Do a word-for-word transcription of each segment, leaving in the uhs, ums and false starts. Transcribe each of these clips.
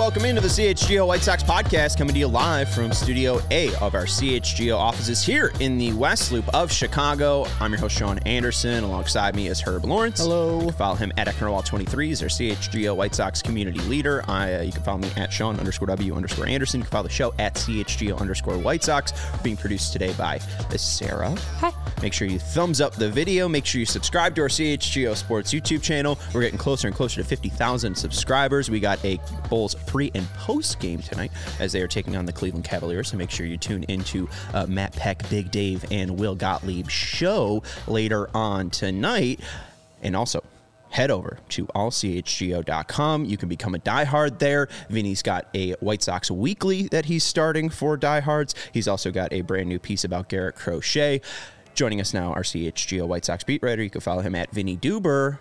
welcome into the C H G O White Sox podcast, coming to you live from Studio A of our C H G O offices here in the West Loop of Chicago. I'm your host, Sean Anderson. Alongside me is Herb Lawrence. Hello. You can follow him at Ecknerwall twenty-three. He's our C H G O White Sox community leader. I, uh, you can follow me at Sean underscore W underscore Anderson. You can follow the show at C H G O underscore White Sox. Being produced today by Sarah. Hi. Make sure you thumbs up the video. Make sure you subscribe to our C H G O Sports YouTube channel. We're getting closer and closer to fifty thousand subscribers. We got a Bulls pre and post game tonight as they are taking on the Cleveland Cavaliers. So make sure you tune into uh, Matt Peck, Big Dave, and Will Gottlieb's show later on tonight. And also, head over to all c h g o dot com. You can become a diehard there. Vinny's got a White Sox weekly that he's starting for diehards. He's also got a brand new piece about Garrett Crochet. Joining us now, our C H G O White Sox beat writer. You can follow him at Vinny Duber.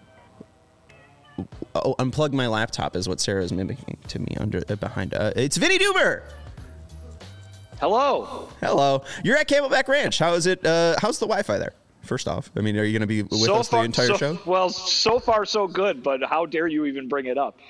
Oh, unplug my laptop is what Sarah is mimicking to me under uh, behind. Uh, it's Vinny Duber. Hello. Hello. You're at Camelback Ranch. How is it? Uh, how's the Wi-Fi there? First off, I mean, are you going to be with so us far, the entire so, show? Well, so far so good, but how dare you even bring it up?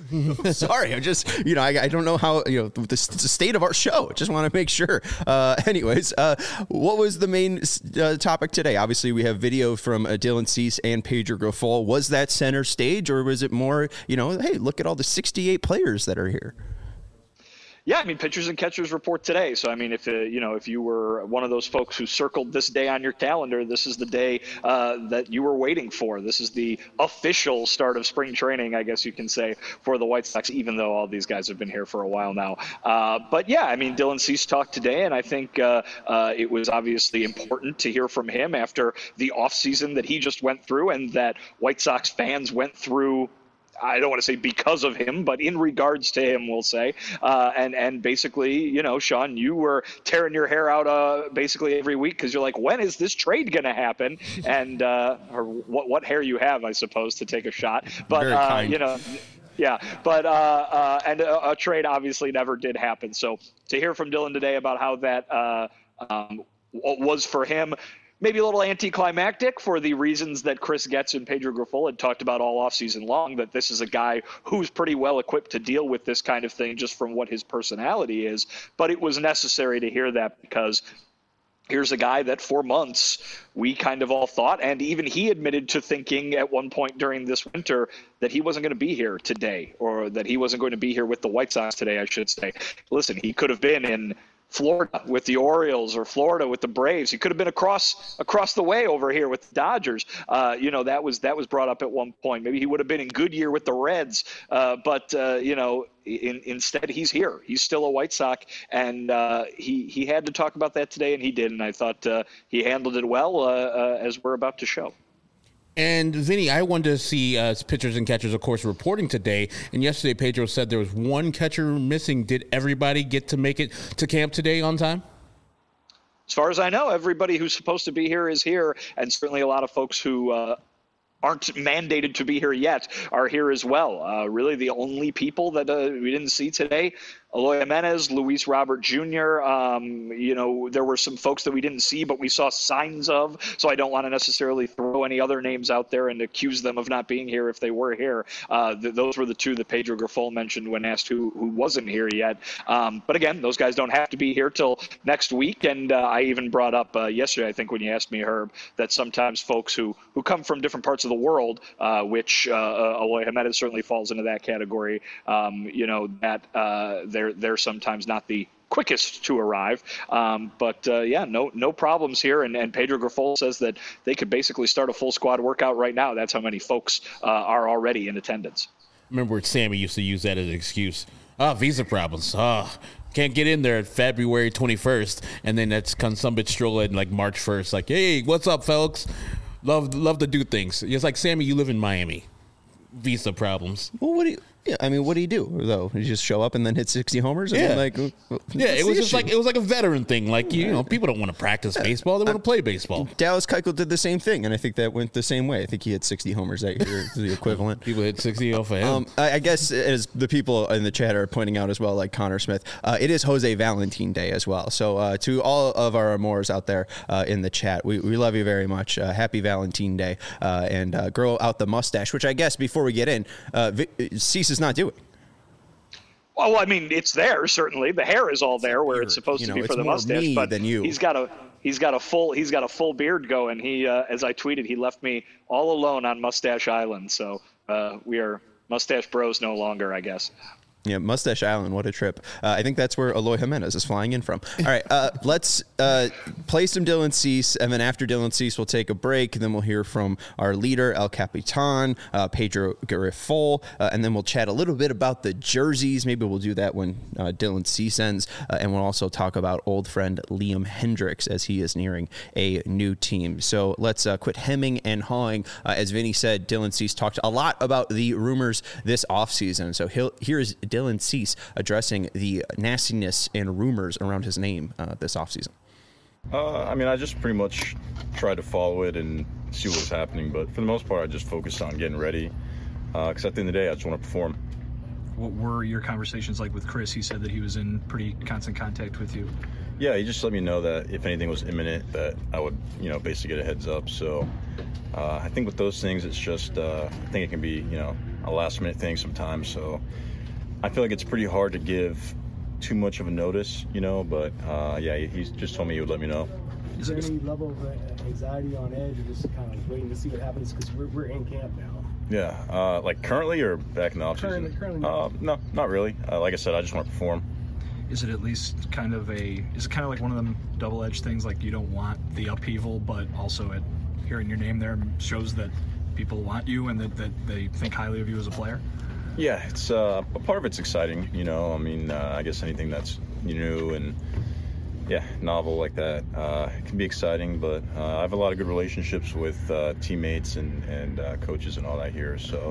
Sorry, I'm just, you know, I, I don't know how, you know, the, the state of our show. Just want to make sure. Uh, anyways, uh, what was the main uh, topic today? Obviously, we have video from uh, Dylan Cease and Pedro Grifol. Was that center stage, or was it more, you know, hey, look at all the sixty-eight players that are here? Yeah, I mean, pitchers and catchers report today. So, I mean, if uh, you know, if you were one of those folks who circled this day on your calendar, this is the day uh, that you were waiting for. This is the official start of spring training, I guess you can say, for the White Sox, even though all these guys have been here for a while now. Uh, but, yeah, I mean, Dylan Cease talked today, and I think uh, uh, it was obviously important to hear from him after the offseason that he just went through and that White Sox fans went through. I don't want to say because of him, but in regards to him, we'll say. Uh, and, and basically, you know, Sean, you were tearing your hair out uh, basically every week because you're like, when is this trade going to happen? And uh, or what, what hair you have, I suppose, to take a shot. But, uh, you know, yeah, but uh, uh, and a, a trade obviously never did happen. So to hear from Dylan today about how that uh, um, was for him, maybe a little anticlimactic for the reasons that Chris Getz and Pedro Grifol had talked about all offseason long, that this is a guy who's pretty well equipped to deal with this kind of thing just from what his personality is. But it was necessary to hear that because here's a guy that for months we kind of all thought, and even he admitted to thinking at one point during this winter that he wasn't going to be here today, or that he wasn't going to be here with the White Sox today, I should say. Listen, he could have been in Florida with the Orioles or Florida with the Braves. He could have been across across the way over here with the Dodgers. Uh, you know, that was that was brought up at one point. Maybe he would have been in Goodyear with the Reds. Uh, but, uh, you know, in, instead he's here. He's still a White Sox. And uh, he, he had to talk about that today, and he did. And I thought uh, he handled it well, uh, uh, as we're about to show. And, Vinny, I wanted to see uh, pitchers and catchers, of course, reporting today. And yesterday, Pedro said there was one catcher missing. Did everybody get to make it to camp today on time? As far as I know, everybody who's supposed to be here is here. And certainly a lot of folks who uh, aren't mandated to be here yet are here as well. Uh, really, the only people that uh, we didn't see today, Eloy Jimenez, Luis Robert Junior Um, you know, there were some folks that we didn't see, but we saw signs of. So I don't want to necessarily throw any other names out there and accuse them of not being here if they were here. Uh, th- those were the two that Pedro Grifol mentioned when asked who, who wasn't here yet. Um, but again, those guys don't have to be here till next week. And uh, I even brought up uh, yesterday, I think, when you asked me, Herb, that sometimes folks who, who come from different parts of the world, uh, which uh, uh, Eloy Jimenez certainly falls into that category, um, you know, that uh, they're they're sometimes not the quickest to arrive. Um, but, uh, yeah, no no problems here. And, and Pedro Grifol says that they could basically start a full squad workout right now. That's how many folks uh, are already in attendance. Remember Sammy used to use that as an excuse. Ah, oh, visa problems. Ah, oh, can't get in there February twenty-first. And then that's come some bitch stroll in like March first. Like, hey, what's up, folks? Love, love to do things. It's like, Sammy, you live in Miami. Visa problems. Well, what do you... Yeah, I mean, what do you do though? You just show up and then hit sixty homers? And yeah, then, like, yeah. It was just issue? like it was like a veteran thing. Like you, you know, people don't want to practice baseball; they want to play baseball. Dallas Keuchel did the same thing, and I think that went the same way. I think he hit sixty homers that year, the equivalent. People hit sixty off of him. Um, I, I guess as the people in the chat are pointing out as well, like Connor Smith, uh, it is Jose Valentin Day as well. So uh, to all of our Amores out there uh, in the chat, we, we love you very much. Uh, happy Valentine Day, uh, and uh, grow out the mustache, which I guess before we get in, uh, Cease is not doing. Well, I mean, it's there certainly. The hair is all there where it's supposed you know, to be for it's the more mustache. me But than you. he's got a he's got a full he's got a full beard going. He, uh, as I tweeted, he left me all alone on Mustache Island. So uh, we are mustache bros no longer, I guess. Yeah, Mustache Island, what a trip. Uh, I think that's where Eloy Jimenez is flying in from. All right, uh, let's uh, play some Dylan Cease, and then after Dylan Cease, we'll take a break, and then we'll hear from our leader, El Capitan, uh, Pedro Garifol, uh, and then we'll chat a little bit about the jerseys. Maybe we'll do that when uh, Dylan Cease ends, uh, and we'll also talk about old friend Liam Hendriks as he is nearing a new team. So let's uh, quit hemming and hawing. Uh, as Vinny said, Dylan Cease talked a lot about the rumors this offseason, so he'll, here's Dylan Cease addressing the nastiness and rumors around his name uh, this offseason. Uh, I mean, I just pretty much tried to follow it and see what was happening, but for the most part, I just focused on getting ready because uh, at the end of the day, I just want to perform. What were your conversations like with Chris? He said that he was in pretty constant contact with you. Yeah, he just let me know that if anything was imminent, that I would, you know, basically get a heads up. So uh, I think with those things, it's just, uh, I think it can be, you know, a last minute thing sometimes. So I feel like it's pretty hard to give too much of a notice, you know, but uh, yeah, he just told me he would let me know. Is there any level of anxiety on edge or just kind of waiting to see what happens? Because we're, we're in camp now. Yeah, uh, like currently or back in the offseason? Currently, currently. Uh, no, not really. Uh, like I said, I just want to perform. Is it at least kind of a, is it kind of like one of them double-edged things, like you don't want the upheaval, but also it, hearing your name there shows that people want you and that, that they think highly of you as a player? Yeah, it's uh, a part of it's exciting, you know. I mean, uh, I guess anything that's new and yeah, novel like that uh, it can be exciting. But uh, I have a lot of good relationships with uh, teammates and and uh, coaches and all that here. So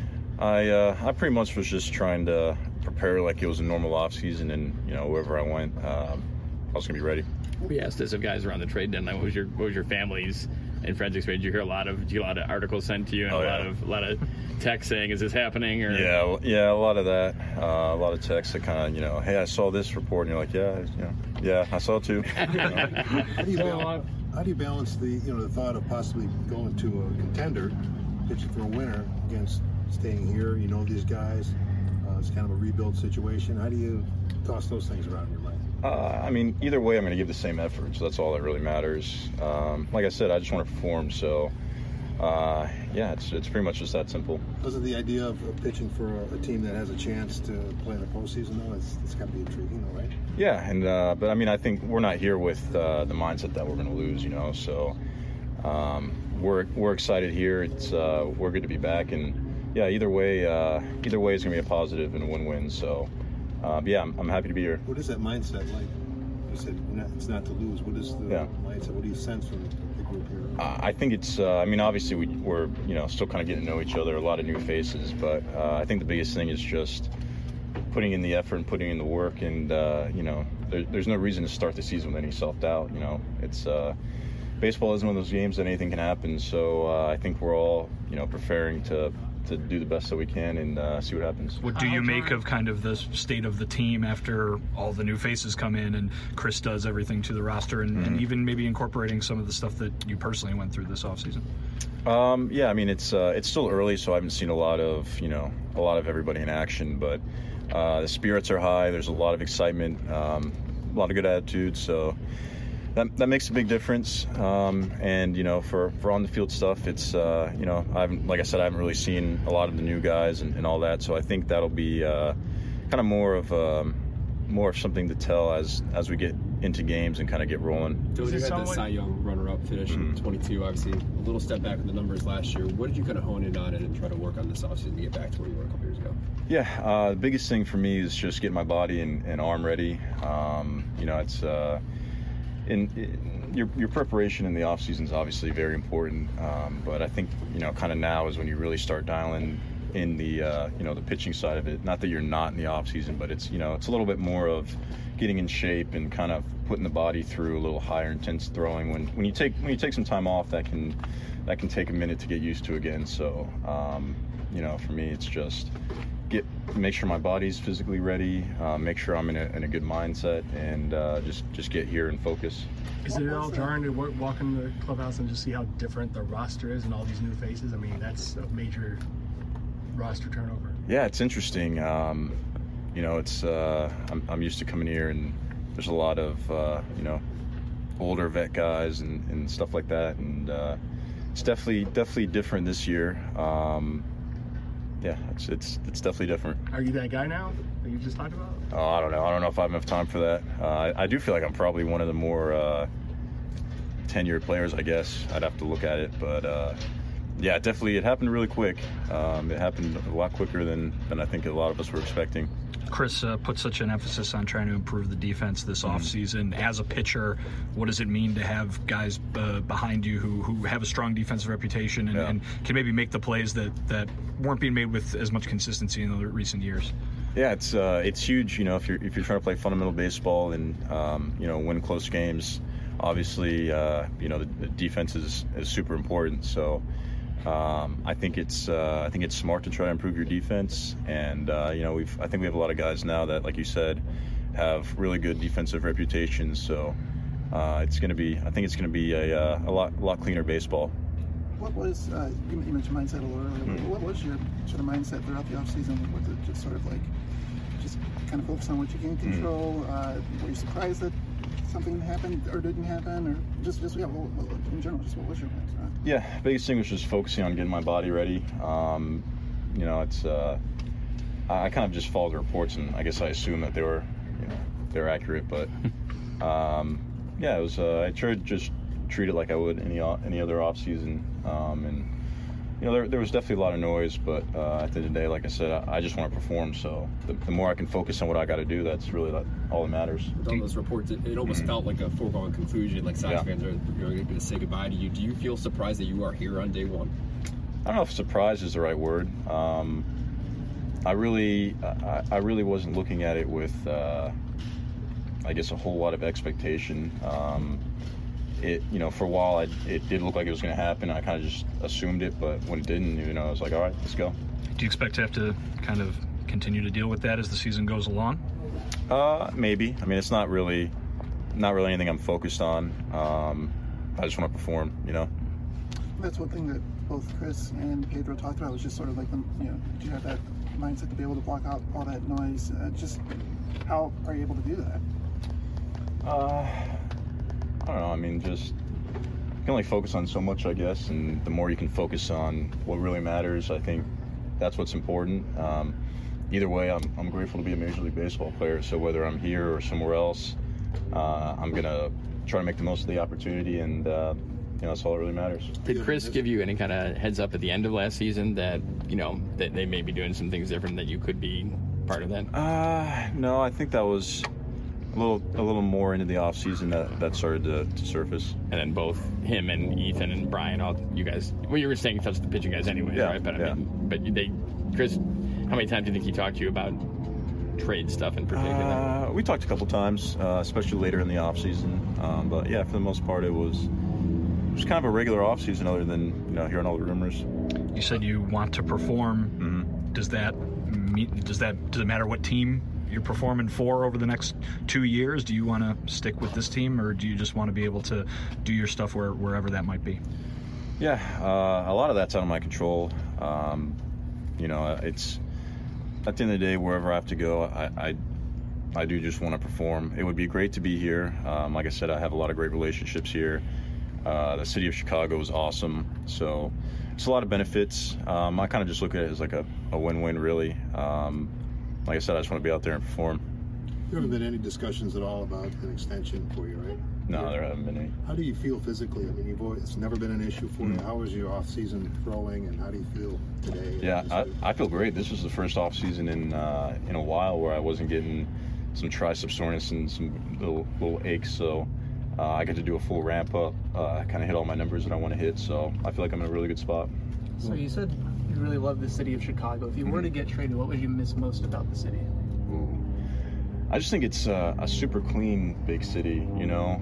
I uh, I pretty much was just trying to prepare like it was a normal off season, and you know wherever I went, um, I was gonna be ready. We asked this of guys around the trade deadline. What was your what was your family's and friends' experience? Did you hear a lot of did you get a lot of articles sent to you and oh, a yeah. lot of a lot of text saying, "Is this happening?" Or yeah, yeah, a lot of that, uh, a lot of texts that kind of you know, hey, I saw this report, and you're like, yeah, you know, yeah, I saw it too. You know? How do you balance, how do you balance the you know the thought of possibly going to a contender, pitching for a winner against staying here? You know these guys. Uh, it's kind of a rebuild situation. How do you toss those things around in your mind? Uh, I mean, either way, I'm going to give the same effort, so that's all that really matters. Um, like I said, I just want to perform, so uh, yeah, it's it's pretty much just that simple. Doesn't the idea of, of pitching for a, a team that has a chance to play in the postseason, though, it's, it's got to be intriguing, though, right? Yeah, and uh, but I mean, I think we're not here with uh, the mindset that we're going to lose, you know. So um, we're we're excited here. It's uh, we're good to be back, and yeah, either way, uh, either way is going to be a positive and a win-win. So. Uh, but yeah, I'm, I'm happy to be here. What is that mindset like? You said it's not to lose. What is the yeah. mindset? What do you sense from the group here? Uh, I think it's, uh, I mean, obviously we, we're, you know, still kind of getting to know each other, a lot of new faces, but uh, I think the biggest thing is just putting in the effort and putting in the work, and, uh, you know, there, there's no reason to start the season with any self-doubt, you know. It's, uh, baseball is one of those games that anything can happen, so uh, I think we're all, you know, preparing to to do the best that we can and uh, see what happens. What do you make of kind of the state of the team after all the new faces come in and Chris does everything to the roster and, mm-hmm. and even maybe incorporating some of the stuff that you personally went through this offseason? Um, yeah, I mean, it's uh, it's still early, so I haven't seen a lot of, you know, a lot of everybody in action, but uh, the spirits are high. There's a lot of excitement, um, a lot of good attitude, so That, that makes a big difference, um, and you know, for, for on the field stuff, it's uh, you know, I haven't, like I said, I haven't really seen a lot of the new guys and, and all that, so I think that'll be uh, kind of more of um, more of something to tell as as we get into games and kind of get rolling. Dylan, you had the Cy Young runner-up finish mm-hmm. in twenty-two, obviously a little step back in the numbers last year. What did you kind of hone in on it and try to work on this offseason to get back to where you were a couple years ago? Yeah, uh, the biggest thing for me is just getting my body and, and arm ready. Um, you know, it's. Uh, In, in your your preparation in the off season is obviously very important, um, but I think you know kind of now is when you really start dialing in the uh, you know the pitching side of it. Not that you're not in the off season, but it's you know it's a little bit more of getting in shape and kind of putting the body through a little higher intense throwing. When when you take when you take some time off, that can that can take a minute to get used to again. So um, you know for me, it's just. Get, make sure my body's physically ready, uh, make sure I'm in a, in a good mindset, and uh, just just get here and focus. Is it all jarring to work, walk in the clubhouse and just see how different the roster is and all these new faces? I mean, that's a major roster turnover. Yeah, it's interesting. Um, you know, it's uh, I'm, I'm used to coming here, and there's a lot of uh, you know, older vet guys and, and stuff like that, and uh, it's definitely definitely different this year. Um, yeah, it's it's it's definitely different. Are you that guy now that you just talked about? Oh, I don't know. I don't know if I have enough time for that. Uh, I, I do feel like I'm probably one of the more uh, tenured players, I guess. I'd have to look at it, but uh, yeah, definitely it happened really quick. Um, it happened a lot quicker than, than I think a lot of us were expecting. Chris uh, put such an emphasis on trying to improve the defense this Mm-hmm. offseason. As a pitcher, what does it mean to have guys uh, behind you who, who have a strong defensive reputation and, Yeah. and can maybe make the plays that, that weren't being made with as much consistency in the recent years? Yeah, it's uh, it's huge. You know, if you're if you're trying to play fundamental baseball and um, you know, win close games, obviously uh, you know, the, the defense is, is super important. So um, I think it's uh, I think it's smart to try to improve your defense. And uh, you know, we've I think we have a lot of guys now that, like you said, have really good defensive reputations. So uh, it's going to be I think it's going to be a uh, a lot a lot cleaner baseball. What was, uh, you you mentioned mindset a little earlier, Mm. what was your sort of mindset throughout the offseason? Was it just sort of like, just kind of focus on what you can control? Uh, were you surprised that something happened or didn't happen? Or just, just yeah, what, what, in general, just what was your mindset? Yeah, biggest thing was just focusing on getting my body ready. Um, you know, it's uh, I kind of just followed the reports, and I guess I assumed that they were, you know, they were accurate. But um, yeah, it was. Uh, I tried to just treat it like I would any any other off season, um, and you know, there, there was definitely a lot of noise. But uh, at the end of the day, like I said, I, I just want to perform. So the, the more I can focus on what I got to do, that's really like, all that matters. With all those reports, it, it almost felt like a foregone conclusion. Like Sox Yeah. fans are going to say goodbye to you. Do you feel surprised that you are here on day one? I don't know if surprise is the right word. Um, I really, I, I really wasn't looking at it with, uh, I guess, a whole lot of expectation. Um, it, you know, for a while, I, it did look like it was going to happen. I kind of just assumed it, but when it didn't, you know, I was like, all right, let's go. Do you expect to have to kind of continue to deal with that as the season goes along? Uh, maybe. I mean, it's not really, not really anything I'm focused on. Um, I just want to perform, you know. That's one thing that both Chris and Pedro talked about, was just sort of like, the, you know, do you have that mindset to be able to block out all that noise? Uh, just how are you able to do that? Uh, I don't know. I mean, just you can only focus on so much, I guess, and the more you can focus on what really matters, I think that's what's important. Um, either way, I'm I'm grateful to be a Major League Baseball player. So whether I'm here or somewhere else, uh, I'm gonna try to make the most of the opportunity, and uh, you know, that's all that really matters. Did Chris give you any kind of heads up at the end of last season that, you know, that they may be doing some things different, that you could be part of that? Uh, no, I think that was a little a little more into the off season that that started to, to surface. And then both him and Ethan and Brian, all you guys, well, you were saying touch the pitching guys anyway, Yeah, right? But I yeah. mean, but they, Chris, how many times do you think he talked to you about trade stuff in particular? Uh, we talked a couple times, uh, especially later in the off season. Um, but yeah, for the most part, it was it was kind of a regular off season, other than, you know, hearing all the rumors. You said you want to perform. Mm-hmm. Does that mean, does that does it matter what team you're performing for over the next two years? Do you want to stick with this team, or do you just want to be able to do your stuff where, wherever that might be? Yeah, uh, a lot of that's out of my control. Um, you know, it's at the end of the day, wherever I have to go, I, I, I do just want to perform. It would be great to be here. Um, like I said, I have a lot of great relationships here. Uh, the city of Chicago is awesome, so it's a lot of benefits. Um, I kind of just look at it as like a, a win-win, really. Um, like I said, I just want to be out there and perform. There haven't been any discussions at all about an extension for you, right? No, there haven't been any. How do you feel physically? I mean, you've always, it's never been an issue for you. Mm. How was your off-season throwing, and how do you feel today? Yeah, I, I feel great. This was the first off season in uh, in a while where I wasn't getting some tricep soreness and some little little aches. So uh, I got to do a full ramp up. Uh, kind of hit all my numbers that I want to hit. So I feel like I'm in a really good spot. So you said you really love the city of Chicago. If you were to get traded, what would you miss most about the city? Ooh. I just think it's uh, a super clean big city. You know,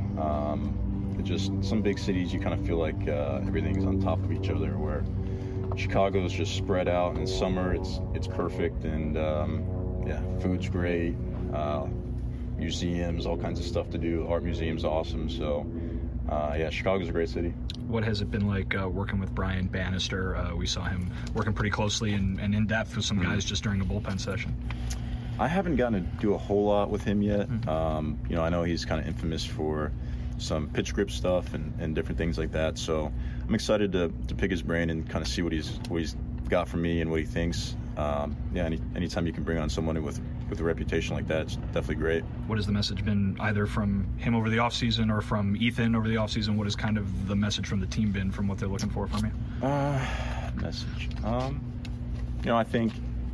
um, it just some big cities you kind of feel like uh, everything's on top of each other. Where Chicago is just spread out. In summer, it's it's perfect, and um, yeah, food's great. Uh, museums, all kinds of stuff to do. Art museum's awesome. So uh, yeah, Chicago's a great city. What has it been like uh, working with Brian Bannister? Uh, we saw him working pretty closely and, and in depth with some Mm-hmm. guys just during a bullpen session. I haven't gotten to do a whole lot with him yet. Mm-hmm. Um, you know, I know he's kind of infamous for some pitch grip stuff and, and different things like that. So I'm excited to, to pick his brain and kind of see what he's what he's got from me and what he thinks. Um, yeah, any, anytime you can bring on someone with with a reputation like that, it's definitely great. What has the message been either from him over the offseason or from Ethan over the offseason? What has kind of the message from the team been from what they're looking for from you? Uh, message. Um, you know, I think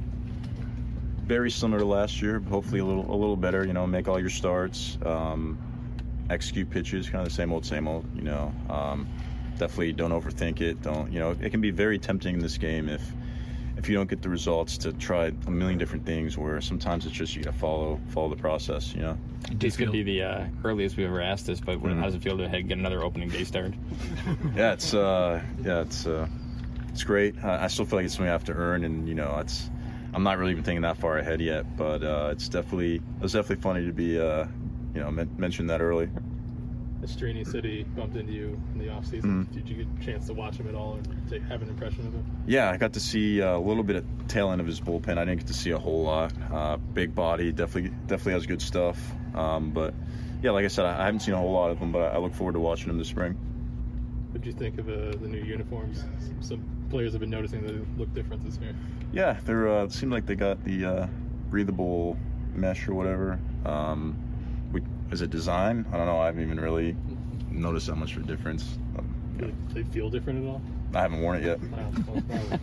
very similar to last year, but hopefully a little a little better. You know, make all your starts, um, execute pitches, kind of the same old, same old. You know, um, definitely don't overthink it. Don't you know? It can be very tempting in this game if if you don't get the results to try a million different things. Where sometimes it's just you gotta follow follow the process. You know. This could be the uh, earliest we've ever asked this, but Mm-hmm. how does it feel to head get another opening day start? Yeah, it's uh, yeah, it's uh, it's great. I, I still feel like it's something I have to earn, and you know, it's. I'm not really even thinking that far ahead yet, but uh, it's definitely it was definitely funny to be uh, you know men- mention that early. Estrini said he bumped into you in the offseason. Mm-hmm. Did you get a chance to watch him at all and take, have an impression of him? Yeah, I got to see a little bit of tail end of his bullpen. I didn't get to see a whole lot. Uh, big body, definitely definitely has good stuff. Um, but yeah, like I said, I haven't seen a whole lot of him, but I look forward to watching him this spring. What did you think of uh, the new uniforms? Some players have been noticing that they look different this year. Yeah, they're uh, it seemed like they got the uh, breathable mesh or whatever. Um, we, is it design? I don't know. I haven't even really noticed that much of a difference. Um, Do they feel different at all? I haven't worn it yet. Oh, well, probably.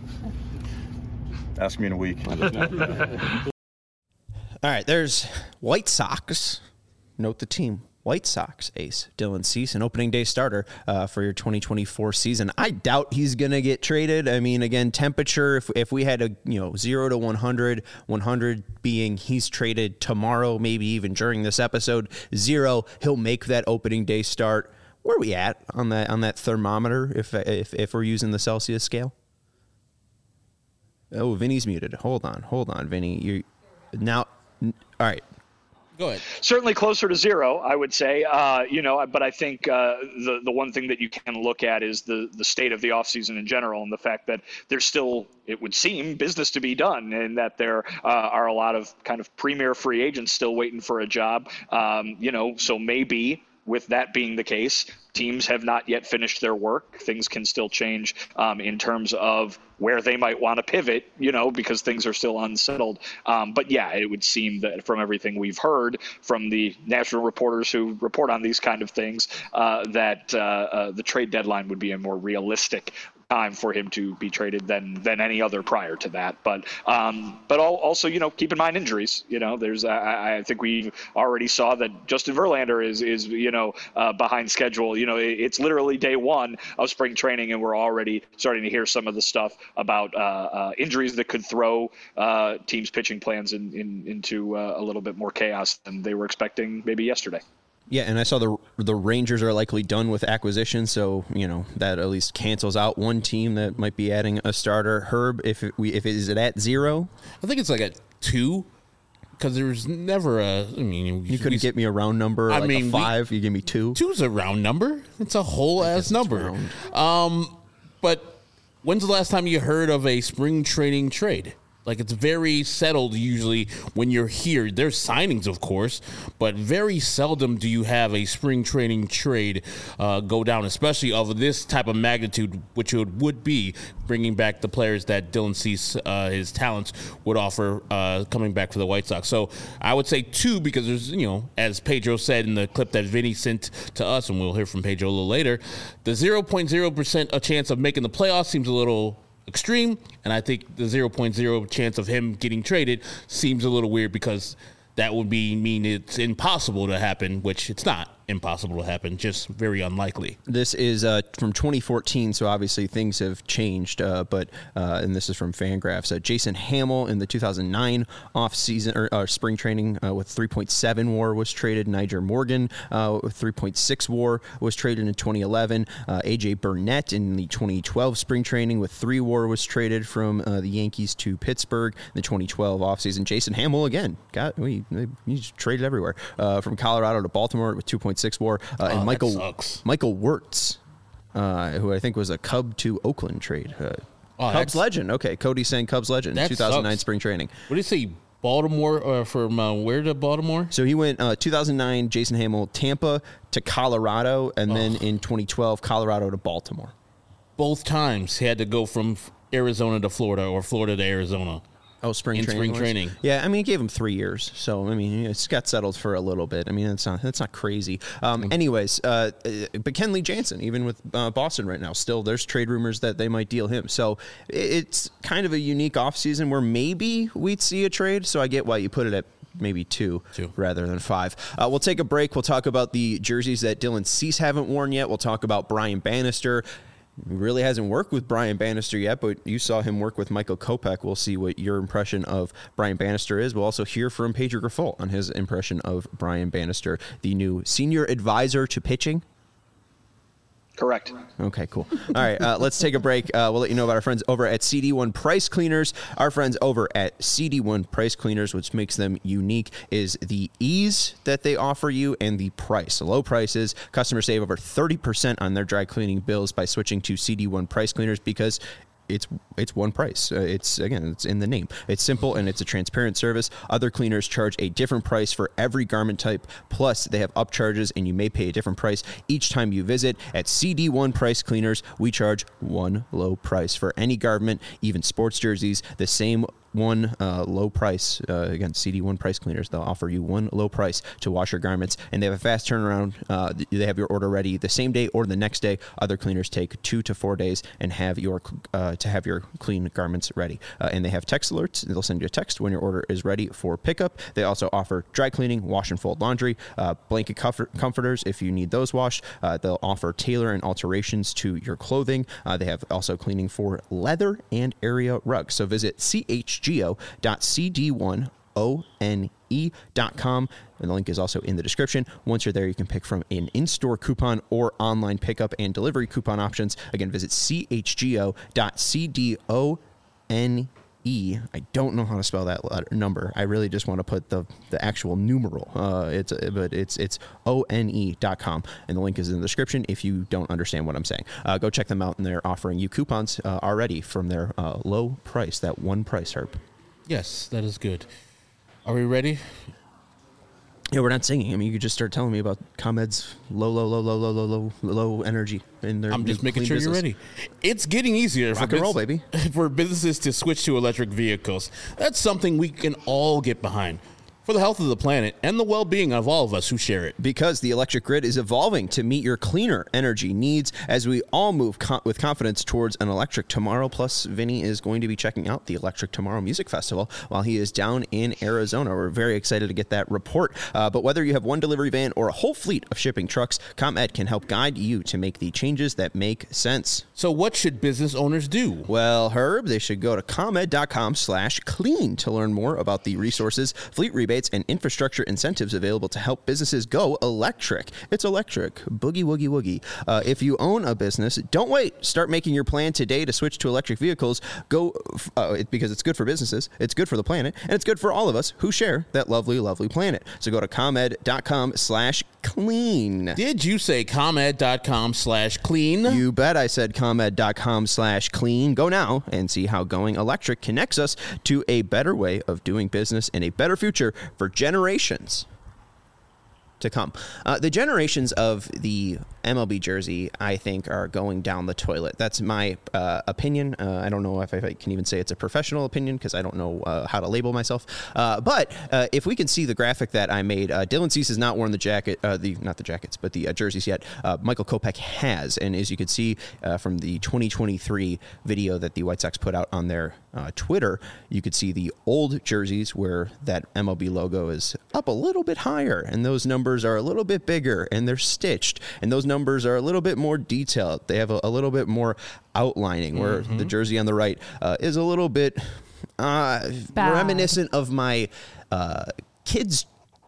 Ask me in a week. All right, there's White Sox. Note the team. White Sox ace Dylan Cease, an opening day starter uh, for your twenty twenty-four season. I doubt he's going to get traded. I mean, again, temperature, if if we had a, you know, zero to one hundred, one hundred being he's traded tomorrow, maybe even during this episode, zero, he'll make that opening day start. Where are we at on that on that thermometer if if if we're using the Celsius scale? Oh, Vinny's muted. Hold on. Hold on, Vinny. You now all right. Go ahead. Certainly closer to zero, I would say. Uh, you know, but I think uh, the the one thing that you can look at is the the state of the offseason in general, and the fact that there's still, it would seem, business to be done, and that there uh, are a lot of kind of premier free agents still waiting for a job. Um, you know, so maybe with that being the case, teams have not yet finished their work. Things can still change um, in terms of where they might want to pivot, you know, because things are still unsettled. Um, but yeah, it would seem that from everything we've heard from the national reporters who report on these kind of things, uh, that uh, uh, the trade deadline would be a more realistic time for him to be traded than than any other prior to that. But um, but also, you know, keep in mind injuries. You know, there's I, I think we already saw that Justin Verlander is is you know uh, behind schedule. You know, it, it's literally day one of spring training, and we're already starting to hear some of the stuff about uh, uh, injuries that could throw uh, teams' pitching plans in, in, into uh, a little bit more chaos than they were expecting maybe yesterday. Yeah, and I saw the the Rangers are likely done with acquisition, so you know that at least cancels out one team that might be adding a starter. Herb, if it, we if it, is it at zero? I think it's like at two, because there's never a. I mean, you couldn't we, get me a round number. I like mean, a five. We, you give me two. Two's a round number. It's a whole ass number. Um, but when's the last time you heard of a spring training trade? Like, it's very settled usually when you're here. There's signings, of course, but very seldom do you have a spring training trade uh, go down, especially of this type of magnitude, which it would be bringing back the players that Dylan Cease, uh, his talents, would offer uh, coming back for the White Sox. So I would say two because there's, you know, as Pedro said in the clip that Vinny sent to us, and we'll hear from Pedro a little later, the zero point zero percent a chance of making the playoffs seems a little extreme, and I think the zero point zero chance of him getting traded seems a little weird because that would be mean it's impossible to happen, which it's not impossible to happen, just very unlikely. This is uh, from twenty fourteen, so obviously things have changed, uh, but uh, and this is from Fangraphs. Uh, Jason Hamill in the two thousand nine off-season or uh, spring training uh, with three point seven W A R was traded. Nyjer Morgan uh, with three point six W A R was traded in twenty eleven. Uh, A J Burnett in the twenty twelve spring training with three W A R was traded from uh, the Yankees to Pittsburgh. In the twenty twelve offseason, Jason Hamill again got we he's traded everywhere uh, from Colorado to Baltimore with two point six W A R. Uh, and oh, Michael Michael Wirtz, uh, who I think was a Cub to Oakland trade. Uh, oh, Cubs legend. Okay, Cody saying Cubs legend. two thousand nine sucks. Spring training. What do you say? Baltimore uh, from uh, where to Baltimore? So he went uh, two thousand nine, Jason Hamill, Tampa to Colorado, and oh. then in twenty twelve, Colorado to Baltimore. Both times he had to go from Arizona to Florida or Florida to Arizona. Oh, spring in training. spring was? training. Yeah, I mean, it gave him three years, so I mean, it's got settled for a little bit. I mean, that's not that's not crazy. Um, anyways, uh, but Kenley Jansen, even with uh, Boston right now, still there's trade rumors that they might deal him. So it's kind of a unique offseason where maybe we'd see a trade. So I get why you put it at maybe two, two. rather than five. Uh, we'll take a break. We'll talk about the jerseys that Dylan Cease haven't worn yet. We'll talk about Brian Bannister. He really hasn't worked with Brian Bannister yet, but you saw him work with Michael Kopech. We'll see what your impression of Brian Bannister is. We'll also hear from Pedro Grifol on his impression of Brian Bannister, the new senior advisor to pitching. Correct. Okay, cool. All right, uh, let's take a break. Uh, we'll let you know about our friends over at C D one Price Cleaners. Our friends over at C D one Price Cleaners, which makes them unique, is the ease that they offer you and the price. Low prices. Customers save over thirty percent on their dry cleaning bills by switching to C D one Price Cleaners because it's it's one price. Uh, it's, again, it's in the name. It's simple and it's a transparent service. Other cleaners charge a different price for every garment type. Plus, they have upcharges and you may pay a different price each time you visit. At C D one Price Cleaners, we charge one low price for any garment, even sports jerseys, the same one uh, low price. Uh, again, C D one Price Cleaners. They'll offer you one low price to wash your garments, and they have a fast turnaround. Uh, they have your order ready the same day or the next day. Other cleaners take two to four days and have your uh, to have your clean garments ready. Uh, and they have text alerts. They'll send you a text when your order is ready for pickup. They also offer dry cleaning, wash and fold laundry, uh, blanket comfort- comforters if you need those washed. Uh, they'll offer tailor and alterations to your clothing. Uh, they have also cleaning for leather and area rugs. So visit C H G O dot C D one O N E dot com, and the link is also in the description. Once you're there, you can pick from an in-store coupon or online pickup and delivery coupon options. Again, visit C H G O dot C D O N E. I don't know how to spell that letter, number. I really just want to put the, the actual numeral. Uh, it's but it's it's O N E dot com, and the link is in the description if you don't understand what I'm saying. Uh, go check them out, and they're offering you coupons uh, already from their uh, low price, that one price, Herb. Yes, that is good. Are we ready? Yeah, we're not singing. I mean, you could just start telling me about ComEd's low, low, low, low, low, low, low, low energy in their. I'm just making sure business. you're ready. It's getting easier Rock for and bus- roll, baby. for businesses to switch to electric vehicles. That's something we can all get behind. For the health of the planet and the well-being of all of us who share it. Because the electric grid is evolving to meet your cleaner energy needs as we all move co- with confidence towards an electric tomorrow. Plus, Vinny is going to be checking out the Electric Tomorrow Music Festival while he is down in Arizona. We're very excited to get that report. Uh, but whether you have one delivery van or a whole fleet of shipping trucks, ComEd can help guide you to make the changes that make sense. So what should business owners do? Well, Herb, they should go to ComEd.com slash clean to learn more about the resources, fleet rebates, and infrastructure incentives available to help businesses go electric. It's electric. Boogie, woogie, woogie. Uh, if you own a business, don't wait. Start making your plan today to switch to electric vehicles. Go uh, it, because it's good for businesses, it's good for the planet, and it's good for all of us who share that lovely, lovely planet. So go to ComEd.com slash clean. Did you say ComEd.com slash clean? You bet I said ComEd.com slash clean. Go now and see how going electric connects us to a better way of doing business and a better future for generations to come. Uh, the generations of the M L B jersey, I think, are going down the toilet. That's my uh, opinion. Uh, I don't know if I can even say it's a professional opinion because I don't know uh, how to label myself. Uh, but uh, if we can see the graphic that I made, uh, Dylan Cease has not worn the jacket, uh, the not the jackets, but the uh, jerseys yet. Uh, Michael Kopech has, and as you can see uh, from the twenty twenty-three video that the White Sox put out on their uh, Twitter, you could see the old jerseys where that M L B logo is up a little bit higher, and those numbers are a little bit bigger, and they're stitched, and those numbers are a little bit more detailed. They have a, a little bit more outlining, where mm-hmm. the jersey on the right uh, is a little bit uh, reminiscent of my uh, kids'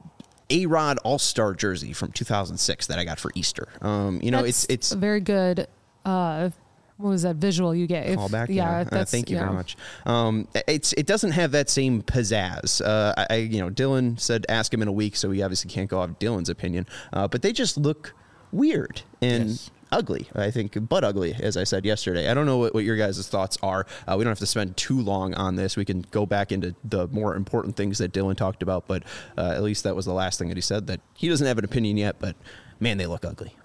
A-Rod All-Star jersey from two thousand six that I got for Easter. Um, you know, that's it's it's a very good. Uh, what was that visual you gave? Callback. Yeah, yeah. that's, uh, thank you yeah. very much. Um, it's it doesn't have that same pizzazz. Uh, I you know Dylan said ask him in a week, so we obviously can't go off Dylan's opinion. Uh, but they just look weird and. Yes. ugly. I think butt ugly, as I said yesterday. I don't know what, what your guys' thoughts are. Uh, we don't have to spend too long on this. We can go back into the more important things that Dylan talked about, but uh, at least that was the last thing that he said, that he doesn't have an opinion yet, but man, they look ugly.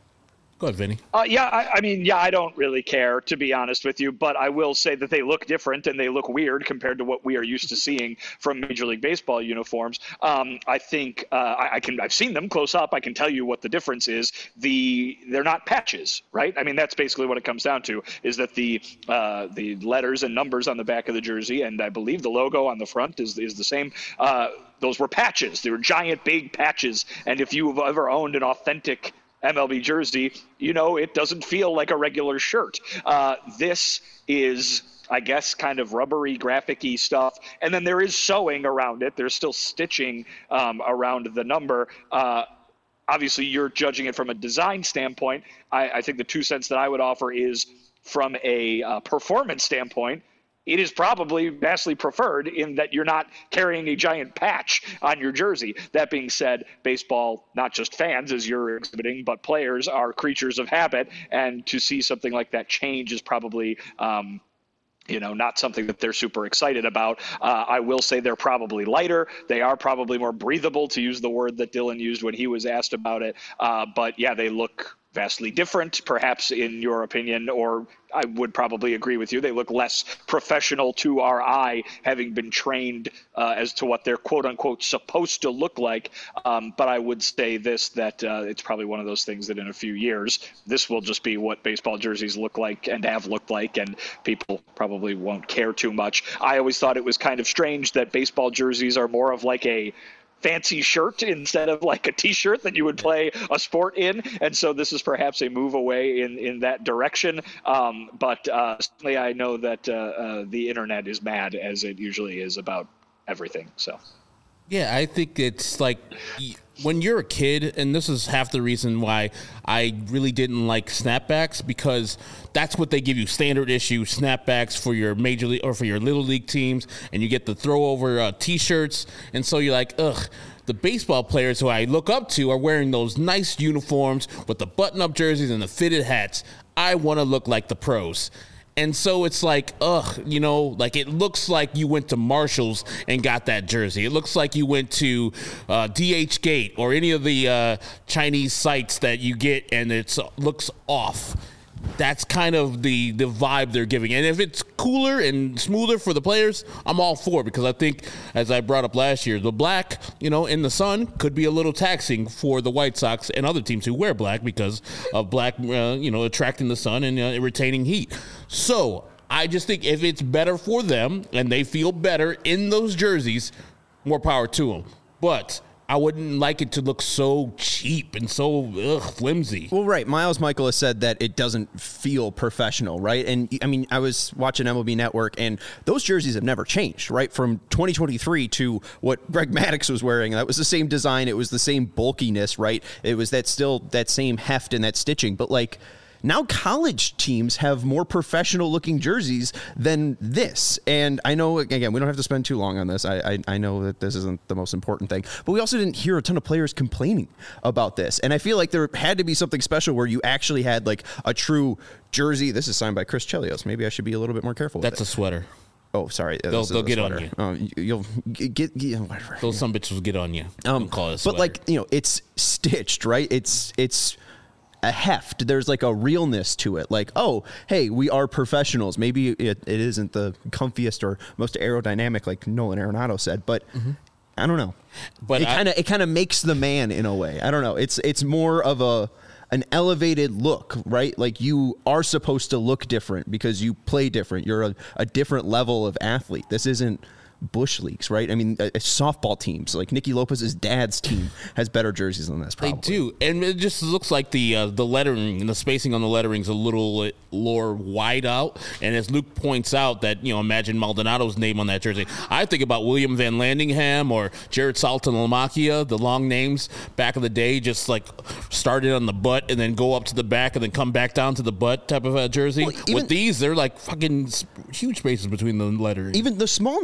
Go ahead, Vinny. Uh, yeah, I, I mean, yeah, I don't really care, to be honest with you, but I will say that they look different and they look weird compared to what we are used to seeing from Major League Baseball uniforms. Um, I think uh, I, I can, I've seen them close up. I can tell you what the difference is. The they're not patches, right? I mean, that's basically what it comes down to, is that the uh, the letters and numbers on the back of the jersey, and I believe the logo on the front is is the same. Uh, those were patches. They were giant, big patches. And if you've ever owned an authentic M L B jersey, you know, it doesn't feel like a regular shirt. Uh, this is, I guess, kind of rubbery, graphic-y stuff. And then there is sewing around it. There's still stitching um, around the number. Uh, obviously, you're judging it from a design standpoint. I, I think the two cents that I would offer is from a uh, performance standpoint, it is probably vastly preferred in that you're not carrying a giant patch on your jersey. That being said, baseball, not just fans as you're exhibiting, but players are creatures of habit. And to see something like that change is probably, um, you know, not something that they're super excited about. Uh, I will say they're probably lighter. They are probably more breathable, to use the word that Dylan used when he was asked about it. Uh, but yeah, they look vastly different, perhaps in your opinion, or I would probably agree with you. They look less professional to our eye, having been trained uh, as to what they're quote unquote supposed to look like. Um, but I would say this, that uh, it's probably one of those things that in a few years, this will just be what baseball jerseys look like and have looked like, and people probably won't care too much. I always thought it was kind of strange that baseball jerseys are more of like a fancy shirt instead of like a t-shirt that you would play a sport in. And so this is perhaps a move away in, in that direction. Um, but uh, certainly I know that uh, uh, the internet is mad, as it usually is, about everything. So. Yeah, I think it's like when you're a kid, and this is half the reason why I really didn't like snapbacks, because that's what they give you, standard issue snapbacks for your major league or for your little league teams, and you get the throw over uh, t-shirts, and so you're like, ugh. The baseball players who I look up to are wearing those nice uniforms with the button-up jerseys and the fitted hats. I want to look like the pros. And so it's like, ugh, you know, like it looks like you went to Marshall's and got that jersey. It looks like you went to uh, D H Gate or any of the uh, Chinese sites that you get, and it looks off. That's kind of the, the vibe they're giving. And if it's cooler and smoother for the players, I'm all for it, because I think, as I brought up last year, the black, you know, in the sun could be a little taxing for the White Sox and other teams who wear black because of black, uh, you know, attracting the sun and uh, retaining heat. So I just think if it's better for them and they feel better in those jerseys, more power to them. But I wouldn't like it to look so cheap and so ugh, flimsy. Well, right. Miles Michael has said that it doesn't feel professional, right? And, I mean, I was watching M L B Network, and those jerseys have never changed, right? From twenty twenty-three to what Greg Maddux was wearing, that was the same design. It was the same bulkiness, right? It was that still that same heft and that stitching. But, like, now college teams have more professional-looking jerseys than this. And I know, again, we don't have to spend too long on this. I, I I know that this isn't the most important thing. But we also didn't hear a ton of players complaining about this. And I feel like there had to be something special where you actually had, like, a true jersey. This is signed by Chris Chelios. Maybe I should be a little bit more careful with That's it. a sweater. Oh, sorry. They'll, they'll get sweater. on you. Oh, you'll get, get, get whatever. Those some bitches will get on you. Um, call it a sweater. But, like, you know, it's stitched, right? It's it's... a heft. There's like a realness to it. Like, oh, hey, we are professionals. Maybe it, it isn't the comfiest or most aerodynamic, like Nolan Arenado said, but mm-hmm. I don't know. But it kind of it kind of makes the man in a way. I don't know. It's it's more of a an elevated look, right? Like you are supposed to look different because you play different. You're a, a different level of athlete. This isn't bush leagues, right? I mean, uh, softball teams, like Nicky Lopez's dad's team, has better jerseys than this. Probably. They do, and it just looks like the uh, the lettering and the spacing on the lettering is a little more wide out. And as Luke points out, that you know, imagine Maldonado's name on that jersey. I think about William Van Landingham or Jared Saltalamacchia, the long names back in the day, just like started on the butt and then go up to the back and then come back down to the butt type of a jersey. Well, even, with these, they're like fucking huge spaces between the lettering. Even the small names too.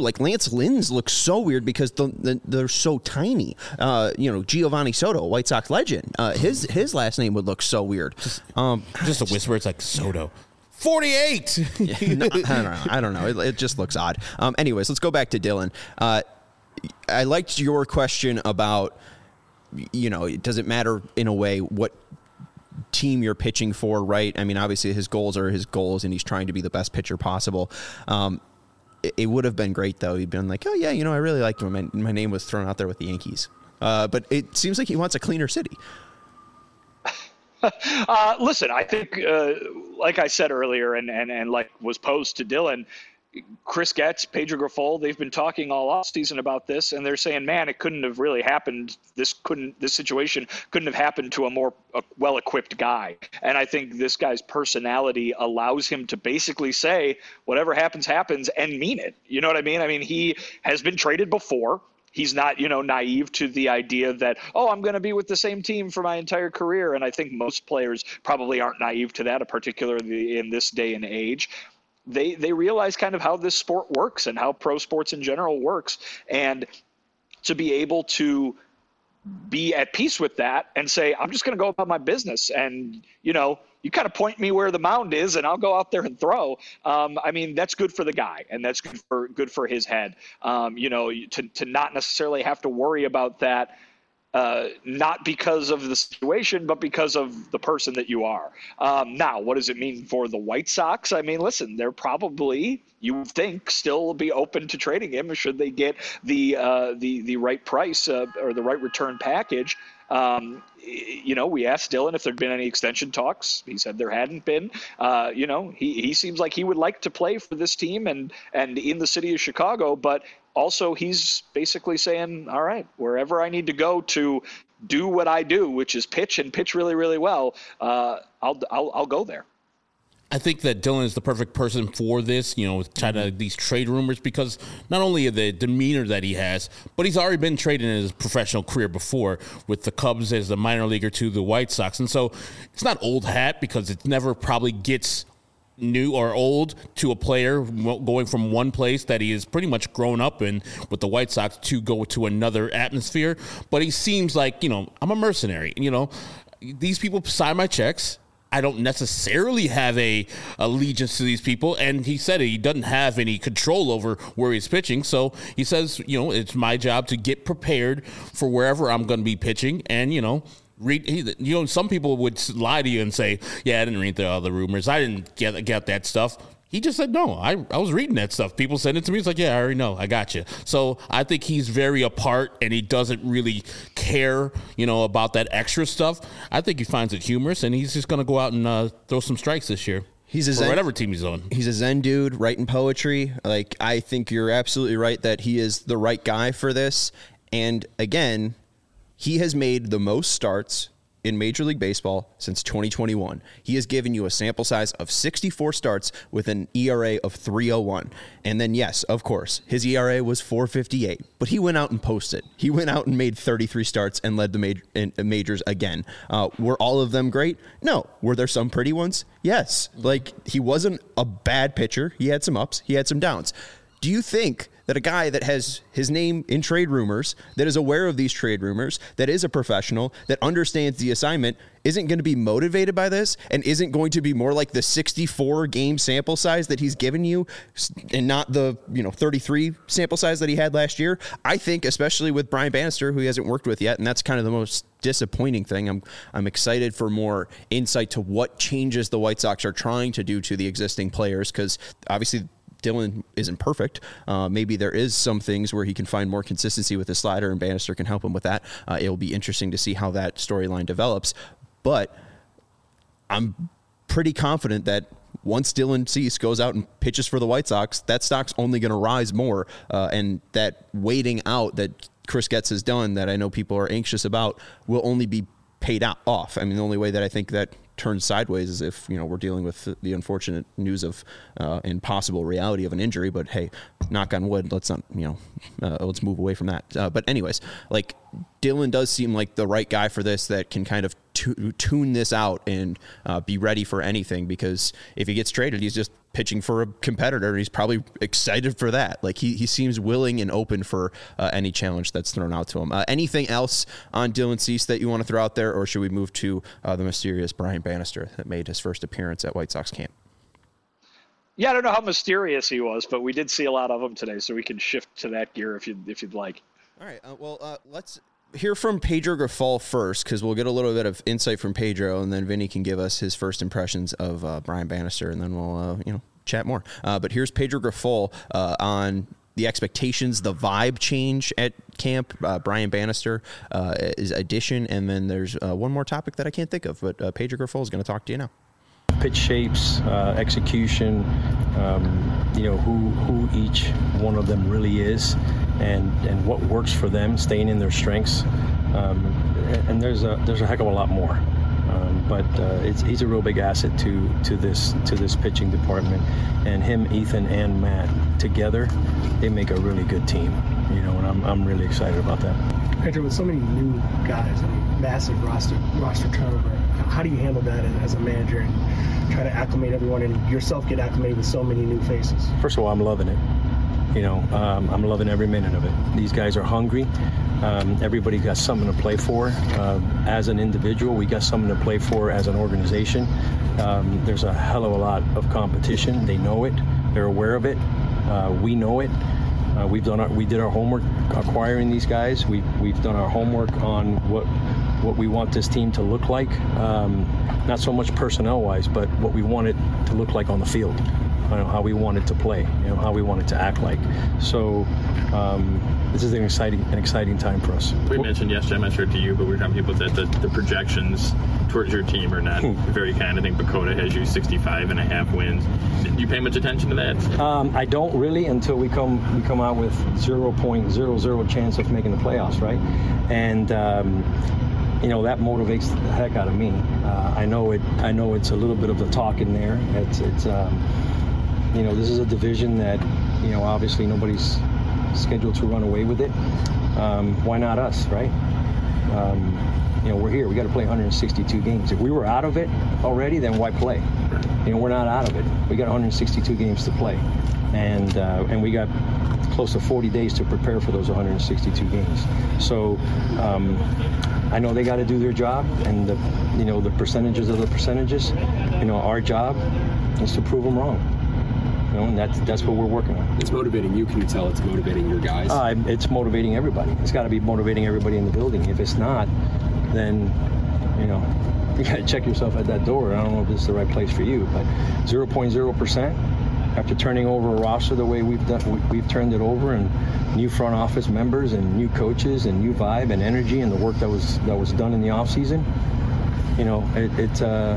Like Lance Lynn's looks so weird because the, the, they're so tiny. Uh, you know, Giovanni Soto, White Sox legend. Uh, his his last name would look so weird. Just, um, just a whisper. It's like Soto. forty-eight. yeah, no, I don't know. I don't know. It, it just looks odd. Um, anyways, let's go back to Dylan. Uh, I liked your question about, you know, does it matter in a way what team you're pitching for, right? I mean, obviously his goals are his goals, and he's trying to be the best pitcher possible. Um, it, it would have been great, though. He'd been like, oh, yeah, you know, I really liked him. My, my name was thrown out there with the Yankees. Uh, but it seems like he wants a cleaner city. uh, listen, I think, uh, like I said earlier, and, and, and like was posed to Dylan, Chris Getz, Pedro Grifol, they've been talking all offseason about this, and they're saying, man, it couldn't have really happened. This couldn't, this situation couldn't have happened to a more uh, well-equipped guy. And I think this guy's personality allows him to basically say, whatever happens, happens, and mean it. You know what I mean? I mean, he has been traded before. He's not, you know, naive to the idea that, oh, I'm going to be with the same team for my entire career. And I think most players probably aren't naive to that, particularly in this day and age. They they realize kind of how this sport works and how pro sports in general works. And to be able to be at peace with that and say, I'm just going to go about my business. And, you know, you kind of point me where the mound is and I'll go out there and throw. Um, I mean, that's good for the guy, and that's good for good for his head. Um, you know, to, to not necessarily have to worry about that, uh, not because of the situation, but because of the person that you are. Um, now, what does it mean for the White Sox? I mean, listen, they're probably, you would think, still be open to trading him should they get the uh, the the right price uh, or the right return package. Um, you know, we asked Dylan if there'd been any extension talks. He said there hadn't been. Uh, you know, he, he seems like he would like to play for this team and, and in the city of Chicago, but also he's basically saying, all right, wherever I need to go to do what I do, which is pitch and pitch really, really well, uh, I'll, I'll, I'll go there. I think that Dylan is the perfect person for this, you know, with kind of these trade rumors, because not only the demeanor that he has, but he's already been traded in his professional career before with the Cubs as a minor leaguer to the White Sox. And so it's not old hat, because it never probably gets new or old to a player going from one place that he has pretty much grown up in with the White Sox to go to another atmosphere. But he seems like, you know, I'm a mercenary. You know, these people sign my checks. I don't necessarily have a allegiance to these people. And he said he doesn't have any control over where he's pitching. So he says, you know, it's my job to get prepared for wherever I'm going to be pitching. And, you know, read, you know, some people would lie to you and say, yeah, I didn't read the other rumors. I didn't get, get that stuff. He just said, no, I, I was reading that stuff. People sent it to me. It's like, yeah, I already know. I got you. So I think he's very apart, and he doesn't really care, you know, about that extra stuff. I think he finds it humorous, and he's just going to go out and uh, throw some strikes this year. He's a Zen, whatever team he's on. He's a Zen dude writing poetry. Like, I think you're absolutely right that he is the right guy for this. And again, he has made the most starts in Major League Baseball since twenty twenty-one. He has given you a sample size of sixty-four starts with an E R A of three oh one. And then, yes, of course, his E R A was four fifty-eight, but he went out and posted. He went out and made thirty-three starts and led the major, in, majors again. Uh, were all of them great? No. Were there some pretty ones? Yes. Like, he wasn't a bad pitcher. He had some ups. He had some downs. Do you think that a guy that has his name in trade rumors, that is aware of these trade rumors, that is a professional, that understands the assignment, isn't going to be motivated by this and isn't going to be more like the sixty-four game sample size that he's given you and not the, you know, thirty-three sample size that he had last year? I think, especially with Brian Bannister, who he hasn't worked with yet, and that's kind of the most disappointing thing. I'm I'm excited for more insight to what changes the White Sox are trying to do to the existing players, because obviously Dylan isn't perfect. Uh, maybe there is some things where he can find more consistency with his slider, and Bannister can help him with that. Uh, it will be interesting to see how that storyline develops. But I'm pretty confident that once Dylan Cease goes out and pitches for the White Sox, that stock's only going to rise more. Uh, and that waiting out that Chris Getz has done, that I know people are anxious about, will only be paid out off. I mean, the only way that I think that turns sideways is if, you know, we're dealing with the unfortunate news of uh, and possible reality of an injury. But hey, knock on wood, let's not, you know, uh, let's move away from that. Uh, but anyways, like, Dylan does seem like the right guy for this, that can kind of tu- tune this out and uh, be ready for anything, because if he gets traded, he's just pitching for a competitor. He's probably excited for that. Like he, he seems willing and open for uh, any challenge that's thrown out to him. Uh, anything else on Dylan Cease that you want to throw out there, or should we move to uh, the mysterious Brian Bannister that made his first appearance at White Sox camp? Yeah, I don't know how mysterious he was, but we did see a lot of him today, so we can shift to that gear if you if you'd like. All right. Uh, well, uh, let's hear from Pedro Grifol first, because we'll get a little bit of insight from Pedro, and then Vinny can give us his first impressions of uh, Brian Bannister, and then we'll uh, you know chat more. Uh, but here's Pedro Grifol uh, on the expectations, the vibe change at camp, uh, Brian Bannister, uh, his addition, and then there's uh, one more topic that I can't think of, but uh, Pedro Grifol is going to talk to you now. Pitch shapes, uh, execution, um, you know, who who each one of them really is, and, and what works for them, staying in their strengths. Um, and there's a there's a heck of a lot more. Um, but uh, it's, he's a real big asset to to this to this pitching department, and him, Ethan, and Matt together, they make a really good team. You know, and I'm I'm really excited about that. Pedro, with so many new guys, I mean, massive roster roster turnover, how do you handle that as a manager and try to acclimate everyone and yourself get acclimated with so many new faces? First of all, I'm loving it. You know, um, I'm loving every minute of it. These guys are hungry. Um, everybody got something to play for. Uh, as an individual, we got something to play for as an organization. Um, there's a hell of a lot of competition. They know it. They're aware of it. Uh, we know it. Uh, we've done our, we did our homework acquiring these guys. We we've done our homework on what what we want this team to look like. Um, not so much personnel-wise, but what we want it to look like on the field. You know, how we want it to play. You know, how we want it to act like. So um, this is an exciting an exciting time for us. We mentioned yesterday, I'm not sure to you, but we were talking people that the, the projections towards your team are not very kind. I think Bakota has you sixty-five and a half wins. Do you pay much attention to that? Um, I don't really until we come we come out with zero point zero zero chance of making the playoffs, right? And um, you know that motivates the heck out of me. Uh, I know it. I know it's a little bit of the talk in there. It's it's um, you know this is a division that you know obviously nobody's scheduled to run away with it. Um, why not us, right? Um, you know we're here. We got to play one hundred sixty-two games. If we were out of it already, then why play? You know we're not out of it. We got one hundred sixty-two games to play, and uh, and we got close to forty days to prepare for those one hundred sixty-two games. So um, I know they got to do their job, and the you know the percentages of the percentages. You know our job is to prove them wrong. You know, and that's that's what we're working on. It's motivating you. Can you tell it's motivating your guys? Uh, it's motivating everybody. It's got to be motivating everybody in the building. If it's not, then you know you got to check yourself at that door. I don't know if this is the right place for you, but zero point zero percent after turning over a roster the way we've done, we've turned it over, and new front office members and new coaches and new vibe and energy and the work that was that was done in the off season. You know, it, it uh,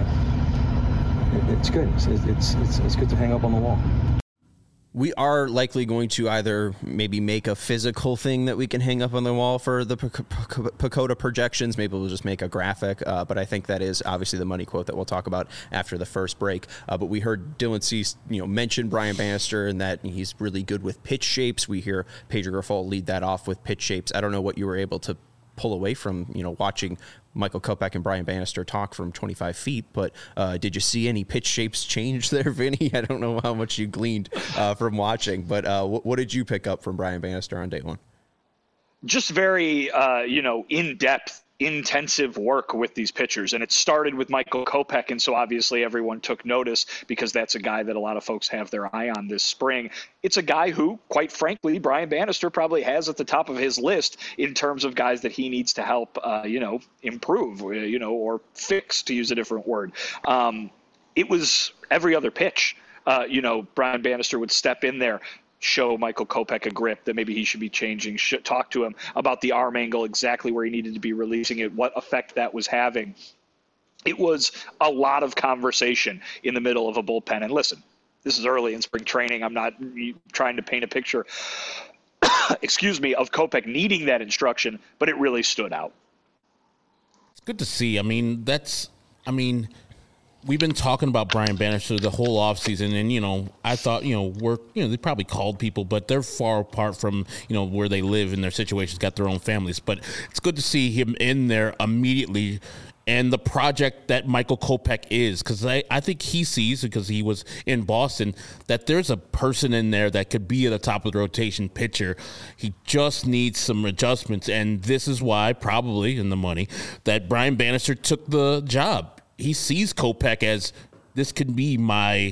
it, it's good. It's, it's it's it's good to hang up on the wall. We are likely going to either maybe make a physical thing that we can hang up on the wall for the Pacoda projections. Maybe we'll just make a graphic, uh, but I think that is obviously the money quote that we'll talk about after the first break. Uh, but we heard Dylan Cease, you know, mention Brian Bannister and that he's really good with pitch shapes. We hear Pedro Grifol lead that off with pitch shapes. I don't know what you were able to pull away from, you know, watching Michael Kopech and Brian Bannister talk from twenty-five feet, but uh, did you see any pitch shapes change there, Vinny? I don't know how much you gleaned uh, from watching, but uh, what, what did you pick up from Brian Bannister on day one? Just very, uh, you know, in-depth, intensive work with these pitchers. And it started with Michael Kopech, and so obviously everyone took notice because that's a guy that a lot of folks have their eye on this spring. It's a guy who, quite frankly, Brian Bannister probably has at the top of his list in terms of guys that he needs to help, uh, you know, improve, you know, or fix, to use a different word. Um, it was every other pitch. Uh, you know, Brian Bannister would step in there, show Michael Kopech a grip that maybe he should be changing, should talk to him about the arm angle, exactly where he needed to be releasing it, what effect that was having. It was a lot of conversation in the middle of a bullpen. And listen, this is early in spring training. I'm not trying to paint a picture, excuse me, of Kopech needing that instruction, but it really stood out. It's good to see. I mean, that's, I mean, we've been talking about Brian Bannister the whole offseason, and, you know, I thought, you know, we're, you know, they probably called people, but they're far apart from, you know, where they live and their situations, got their own families. But it's good to see him in there immediately and the project that Michael Kopech is, because I, I think he sees, because he was in Boston, that there's a person in there that could be at the top of the rotation pitcher. He just needs some adjustments, and this is why, probably in the money, that Brian Bannister took the job. He sees Kopech as, this could be my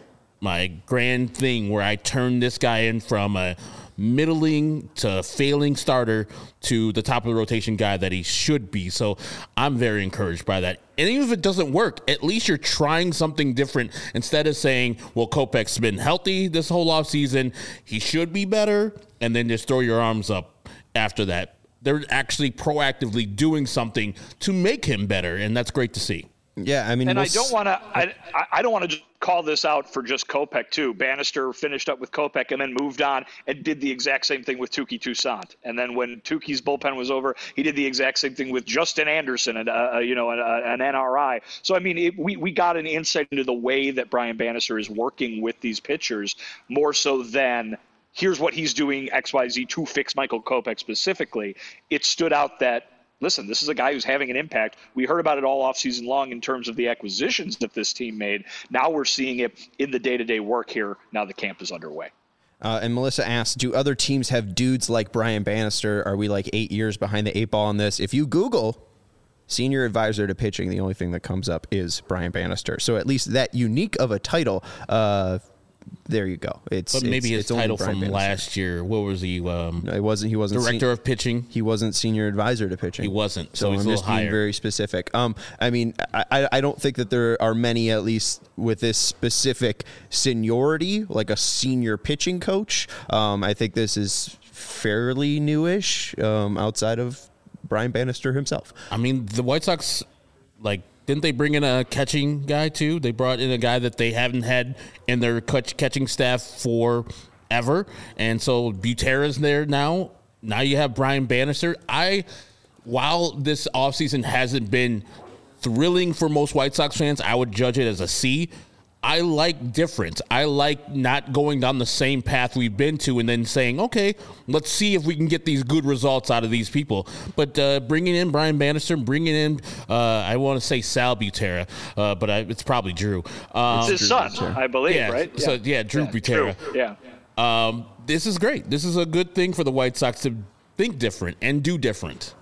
my grand thing where I turn this guy in from a middling to failing starter to the top of the rotation guy that he should be. So I'm very encouraged by that. And even if it doesn't work, at least you're trying something different instead of saying, well, Kopech's been healthy this whole offseason, he should be better, and then just throw your arms up after that. They're actually proactively doing something to make him better, and that's great to see. Yeah, I mean, and we'll I don't want to. I, I don't want to just call this out for just Kopech too. Bannister finished up with Kopech and then moved on and did the exact same thing with Touki Toussaint. And then when Tuki's bullpen was over, he did the exact same thing with Justin Anderson and uh, you know an, an N R I. So I mean, it, we we got an insight into the way that Brian Bannister is working with these pitchers more so than here's what he's doing X Y Z to fix Michael Kopech specifically. It stood out that, listen, this is a guy who's having an impact. We heard about it all offseason long in terms of the acquisitions that this team made. Now we're seeing it in the day-to-day work here. Now the camp is underway. Uh, and Melissa asks, do other teams have dudes like Brian Bannister? Are we like eight years behind the eight ball on this? If you Google senior advisor to pitching, the only thing that comes up is Brian Bannister. So at least that unique of a title, uh, there you go. It's but maybe it's, his it's title from Bannister. last year. What was he? Um, no, it wasn't. He wasn't director sen- of pitching. He wasn't senior advisor to pitching. He wasn't. So, So, he's I'm a just little being higher. very specific. Um, I mean, I, I don't think that there are many, at least with this specific seniority, like a senior pitching coach. Um, I think this is fairly newish, um, outside of Brian Bannister himself. I mean, the White Sox, like, didn't they bring in a catching guy too? They brought in a guy that they haven't had in their catch- catching staff forever, and so Butera's there now. Now you have Brian Bannister. I, while this offseason hasn't been thrilling for most White Sox fans, I would judge it as a C. I like difference. I like not going down the same path we've been to and then saying, okay, let's see if we can get these good results out of these people. But uh, bringing in Brian Bannister, bringing in, uh, I want to say Sal Butera, uh, but I, it's probably Drew. Um, It's his son, I believe, yeah, right? So, yeah, Drew yeah, Butera. Drew, yeah. Um, this is great. This is a good thing for the White Sox to think different and do different.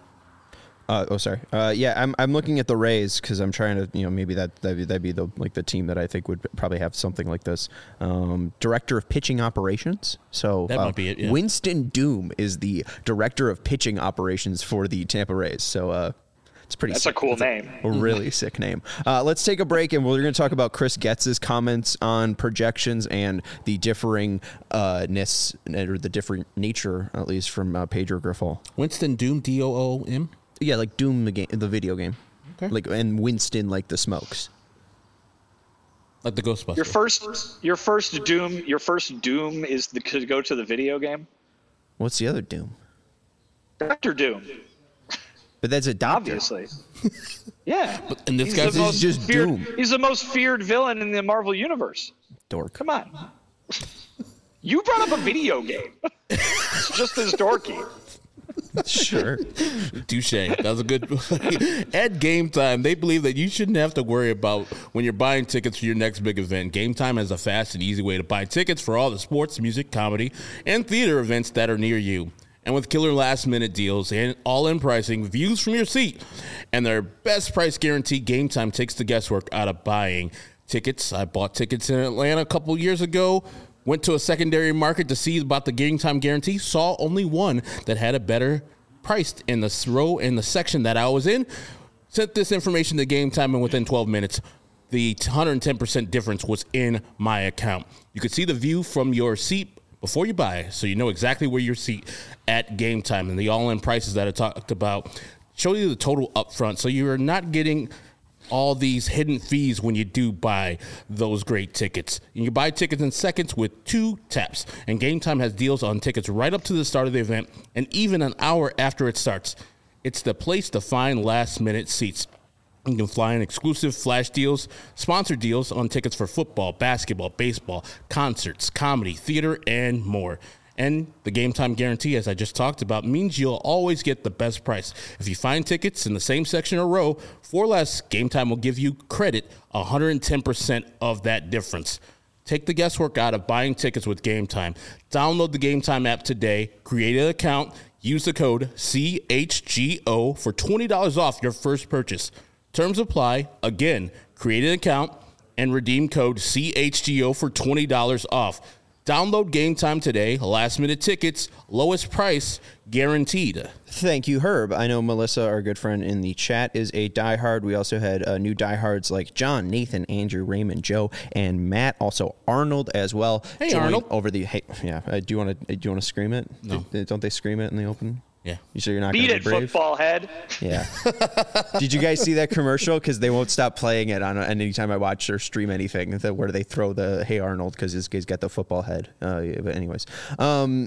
Uh, oh, sorry. Uh, yeah, I'm I'm looking at the Rays because I'm trying to, you know, maybe that that'd be, that'd be the like the team that I think would probably have something like this. Um, director of pitching operations. So That uh, might be it, yeah. Winston Doom is the director of pitching operations for the Tampa Rays. So uh, it's pretty. That's sick. a cool It's name. A really sick name. Uh, let's take a break, and we're going to talk about Chris Getz's comments on projections and the differing uh, ness or the different nature, at least from uh, Pedro Grifol. Winston Doom, D O O M. Yeah, like Doom, the game, the video game. Okay. Like, and Winston, like the smokes. Like the Ghostbusters. Your first, your first Doom, your first Doom is the, to go to the video game. What's the other Doom? Doctor Doom. But that's a doctor. Obviously. Yeah. But, and this He's guy's the most just feared, Doom. He's the most feared villain in the Marvel universe. Dork. Come on. You brought up a video game. It's just as dorky. Sure. Touche. That was a good. At Game Time, they believe that you shouldn't have to worry about when you're buying tickets for your next big event. Game Time has a fast and easy way to buy tickets for all the sports, music, comedy, and theater events that are near you. And with killer last-minute deals and all-in pricing, views from your seat, and their best price guarantee, Game Time takes the guesswork out of buying tickets. I bought tickets in Atlanta a couple years ago. Went to a secondary market to see about the Game Time guarantee. Saw only one that had a better price in the row in the section that I was in. Sent this information to Game Time, and within twelve minutes, the one hundred ten percent difference was in my account. You could see the view from your seat before you buy, so you know exactly where your seat at Game Time. And the all-in prices that I talked about show you the total up front, so you're not getting all these hidden fees when you do buy those great tickets. You can buy tickets in seconds with two taps, and Game Time has deals on tickets right up to the start of the event and even an hour after it starts. It's the place to find last-minute seats. You can fly in exclusive flash deals, sponsored deals on tickets for football, basketball, baseball, concerts, comedy, theater, and more. And the game time guarantee, as I just talked about, means you'll always get the best price. If you find tickets in the same section or row for less, Game Time will give you credit one hundred ten percent of that difference. Take the guesswork out of buying tickets with Game Time. Download the Game Time app today, create an account, use the code C H G O for twenty dollars off your first purchase. Terms apply. Again, create an account and redeem code C H G O for twenty dollars off. Download Game Time today. Last-minute tickets, lowest price, guaranteed. Thank you, Herb. I know Melissa, our good friend in the chat, is a diehard. We also had uh, new diehards like John, Nathan, Andrew, Raymond, Joe, and Matt. Also Arnold as well. Hey, Joined Arnold. Over the hey, yeah. Uh, do you want to? Do you want to scream it? No. Do, don't they scream it in the open? Yeah. You sure you're not Beat going to it, be brave? football head. Yeah. Did you guys see that commercial? Because they won't stop playing it on anytime I watch or stream anything. The, where they throw the "Hey Arnold" because this guy's got the football head. Uh, yeah, but anyways, um,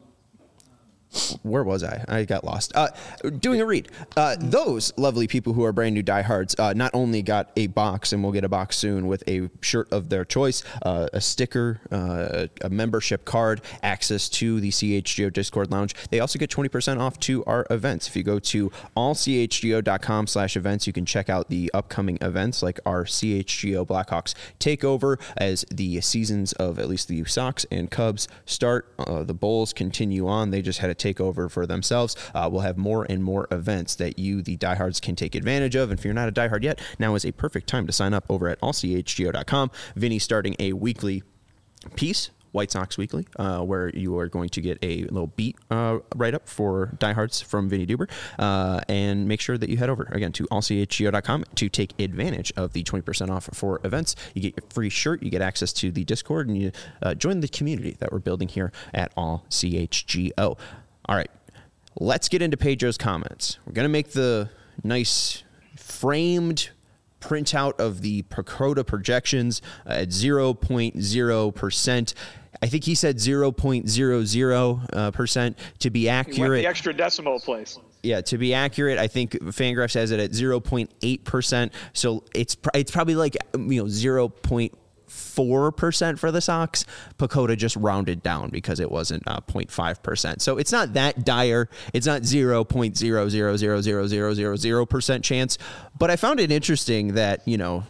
where was I? I got lost. Uh, doing a read. Uh, those lovely people who are brand new diehards uh, not only got a box, and we'll get a box soon with a shirt of their choice, uh, a sticker, uh, a membership card, access to the C H G O Discord Lounge. They also get twenty percent off to our events. If you go to all c h g o dot com slash events, you can check out the upcoming events like our C H G O Blackhawks takeover as the seasons of at least the Sox and Cubs start. Uh, the Bulls continue on. They just had a takeover for themselves. Uh, we'll have more and more events that you, the diehards, can take advantage of. And if you're not a diehard yet, now is a perfect time to sign up over at all c h g o dot com. Vinny's starting a weekly piece, White Sox Weekly, uh, where you are going to get a little beat uh, write-up for diehards from Vinny Duber. Uh, and make sure that you head over, again, to all c h g o dot com to take advantage of the twenty percent off for events. You get your free shirt, you get access to the Discord, and you uh, join the community that we're building here at All C H G O. All right, let's get into Pedro's comments. We're going to make the nice framed printout of the Pacoda projections uh, at zero point zero percent. I think he said zero point zero zero percent to be accurate. You went the extra decimal place. Yeah, to be accurate, I think Fangraphs has it at zero point eight percent. So it's it's probably like, you know, zero point four percent for the Sox. Pacoda just rounded down because it wasn't uh, zero point five percent. So it's not that dire. It's not zero point zero zero zero zero zero zero zero percent chance. But I found it interesting that, you know,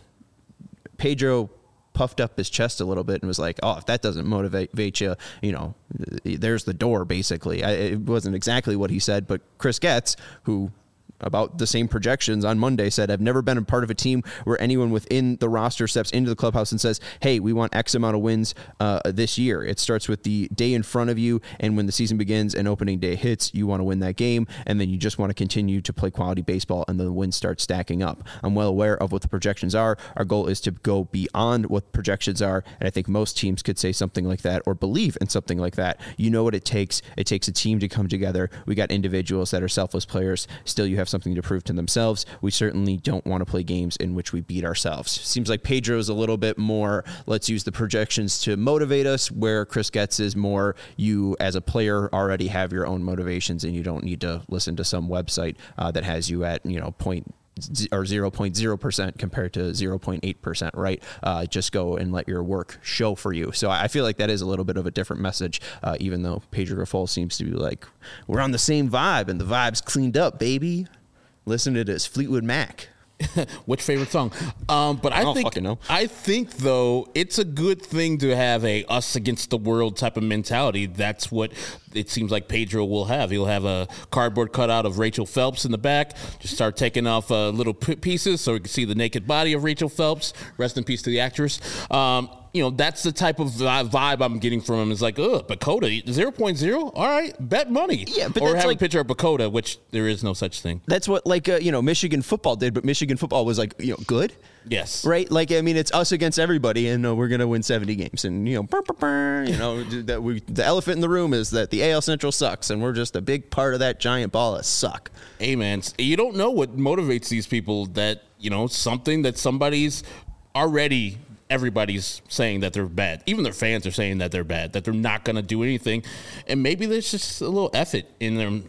Pedro puffed up his chest a little bit and was like, oh, if that doesn't motivate you, you know, there's the door, basically. I, it wasn't exactly what he said, but Chris Getz, who about the same projections on Monday, said, I've never been a part of a team where anyone within the roster steps into the clubhouse and says, hey, we want X amount of wins uh, this year. It starts with the day in front of you, and when the season begins and opening day hits, you want to win that game, and then you just want to continue to play quality baseball, and the wins start stacking up. I'm well aware of what the projections are. Our goal is to go beyond what projections are, and I think most teams could say something like that or believe in something like that. You know what it takes. It takes a team to come together. We got individuals that are selfless players. Still, you have something to prove to themselves. We certainly don't want to play games in which we beat ourselves. Seems like Pedro's a little bit more, let's use the projections to motivate us, where Chris Getz is more, you as a player already have your own motivations and you don't need to listen to some website uh, that has you at, you know, point or zero point zero percent compared to zero point eight percent, right? Uh, just go and let your work show for you. So I feel like that is a little bit of a different message, uh, even though Pedro Raffol seems to be like, we're on the same vibe and the vibe's cleaned up, baby. Listen to this Fleetwood Mac. Which favorite song? Um, but I, I don't think fucking know. I think though it's a good thing to have a us against the world type of mentality. That's what it seems like Pedro will have. He'll have a cardboard cutout of Rachel Phelps in the back. Just start taking off uh, little p- pieces so we can see the naked body of Rachel Phelps. Rest in peace to the actress. Um, you know, that's the type of vibe I'm getting from him. Is like, ugh, Pacoda, zero point zero? All right, bet money. Yeah, but or that's have like, a picture of Pacoda, which there is no such thing. That's what, like, uh, you know, Michigan football did, but Michigan football was like, you know, good. Yes. Right? Like, I mean, it's us against everybody, and uh, we're going to win seventy games. And, you know, burr, burr, burr, you know, that we, the elephant in the room is that the A L Central sucks, and we're just a big part of that giant ball of suck. Hey, man, you don't know what motivates these people, that, you know, something that somebody's already, everybody's saying that they're bad. Even their fans are saying that they're bad, that they're not going to do anything. And maybe there's just a little effort in them.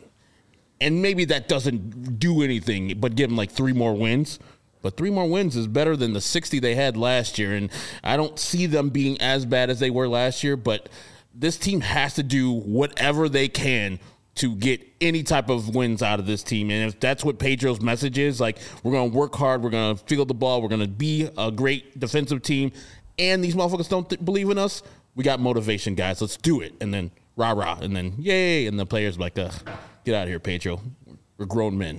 And maybe that doesn't do anything but give them like three more wins. But three more wins is better than the sixty they had last year. And I don't see them being as bad as they were last year. But this team has to do whatever they can to get any type of wins out of this team. And if that's what Pedro's message is, like, we're going to work hard, we're going to field the ball, we're going to be a great defensive team, and these motherfuckers don't th- believe in us, we got motivation, guys. Let's do it. And then rah-rah, and then yay, and the players like, uh, get out of here, Pedro. We're grown men.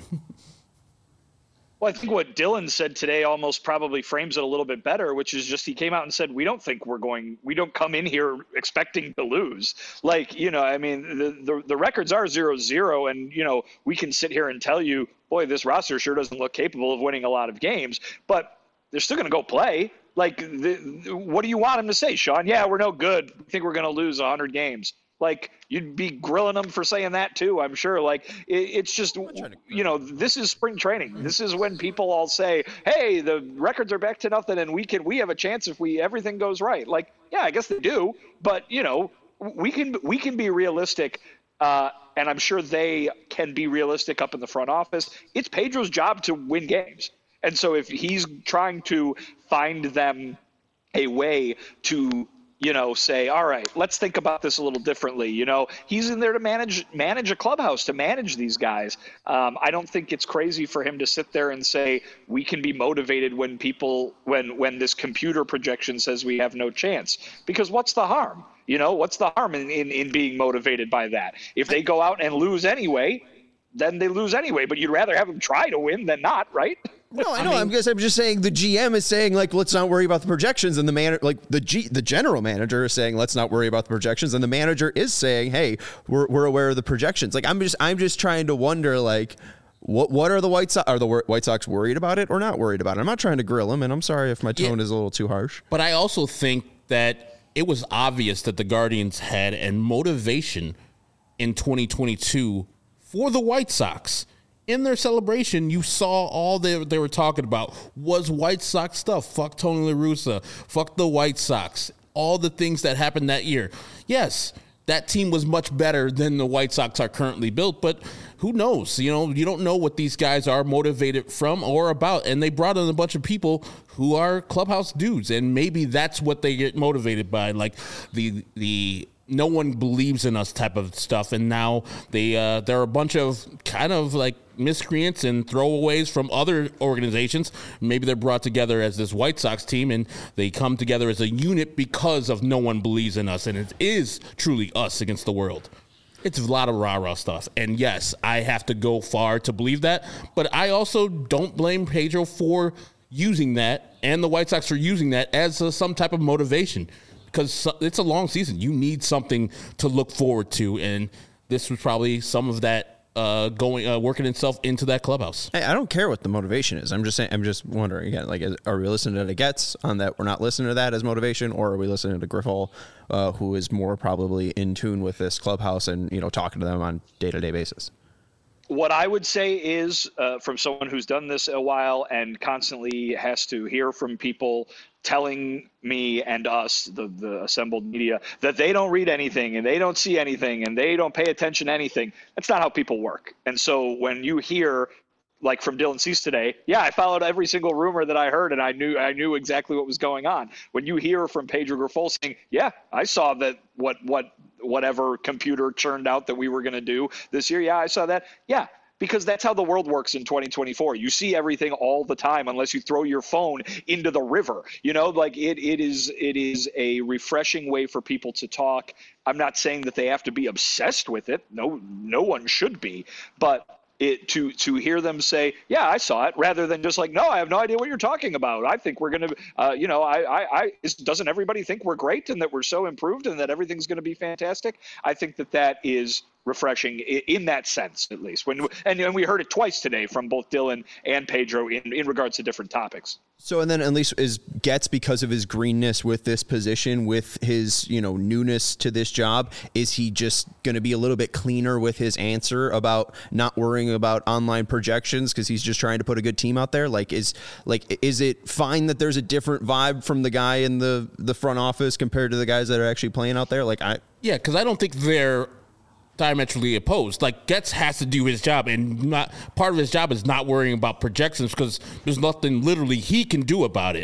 Well, I think what Dylan said today almost probably frames it a little bit better, which is just he came out and said, we don't think we're going, we don't come in here expecting to lose. Like, you know, I mean, the, the, the records are zero zero, and, you know, we can sit here and tell you, boy, this roster sure doesn't look capable of winning a lot of games, but they're still going to go play. Like, the, what do you want him to say, Sean? Yeah, we're no good. I think we're going to lose one hundred games. Like, you'd be grilling them for saying that too, I'm sure. Like, it, it's just, you know, this is spring training. This is when people all say, hey, the records are back to nothing and we can, we have a chance if we, everything goes right. Like, yeah, I guess they do, but, you know, we can, we can be realistic. Uh, and I'm sure they can be realistic up in the front office. It's Pedro's job to win games. And so if he's trying to find them a way to, you know, say, all right, let's think about this a little differently. You know, he's in there to manage manage a clubhouse, to manage these guys. Um, I don't think it's crazy for him to sit there and say we can be motivated when people when when this computer projection says we have no chance. Because what's the harm? You know, what's the harm in, in, in being motivated by that? If they go out and lose anyway, then they lose anyway. But you'd rather have them try to win than not, right? No, I know. I mean, I'm just, I'm just saying the G M is saying, like, let's not worry about the projections, and the man, like the G, the general manager is saying, let's not worry about the projections, and the manager is saying, hey, we're we're aware of the projections. Like, I'm just I'm just trying to wonder, like, what what are the White Sox are the White Sox worried about it or not worried about it? I'm not trying to grill them, and I'm sorry if my tone yeah. is a little too harsh. But I also think that it was obvious that the Guardians had a motivation in twenty twenty-two for the White Sox. In their celebration, you saw all they, they were talking about was White Sox stuff. Fuck Tony La Russa. Fuck the White Sox. All the things that happened that year. Yes, that team was much better than the White Sox are currently built, but who knows? You know, you don't know what these guys are motivated from or about, and they brought in a bunch of people who are clubhouse dudes, and maybe that's what they get motivated by, like the the no one believes in us type of stuff. And now they uh, there are a bunch of kind of like miscreants and throwaways from other organizations. Maybe they're brought together as this White Sox team, and they come together as a unit because of no one believes in us. And it is truly us against the world. It's a lot of rah-rah stuff. And yes, I have to go far to believe that. But I also don't blame Pedro for using that and the White Sox for using that as a, some type of motivation. Because it's a long season. You need something to look forward to, and this was probably some of that uh, going, uh, working itself into that clubhouse. Hey, I don't care what the motivation is. I'm just saying. I'm just wondering again. Like, are we listening to the Getz on that? We're not listening to that as motivation, or are we listening to Griffel, uh, who is more probably in tune with this clubhouse and, you know, talking to them on day to day basis? What I would say is, uh, from someone who's done this a while and constantly has to hear from people telling me and us, the, the assembled media, that they don't read anything and they don't see anything and they don't pay attention to anything. That's not how people work. And so when you hear, like from Dylan Cease today, yeah, I followed every single rumor that I heard and I knew I knew exactly what was going on. When you hear from Pedro Grifol saying, yeah, I saw that what what whatever computer churned out that we were going to do this year, yeah, I saw that. Yeah. Because that's how the world works in twenty twenty-four. You see everything all the time unless you throw your phone into the river. You know, like it, it is it is a refreshing way for people to talk. I'm not saying that they have to be obsessed with it. No, no one should be. But it to to hear them say, yeah, I saw it, rather than just like, no, I have no idea what you're talking about. I think we're going to, uh, you know, I, I, I is, doesn't everybody think we're great and that we're so improved and that everything's going to be fantastic? I think that that is refreshing in that sense, at least. When and, and we heard it twice today from both Dylan and Pedro in, in regards to different topics. So, and then at least is Getz, because of his greenness with this position, with his, you know, newness to this job, is he just going to be a little bit cleaner with his answer about not worrying about online projections because he's just trying to put a good team out there? Like, is like is it fine that there's a different vibe from the guy in the the front office compared to the guys that are actually playing out there? Like, I yeah, because I don't think they're diametrically opposed. Like, Getz has to do his job, and not part of his job is not worrying about projections because there's nothing literally he can do about it.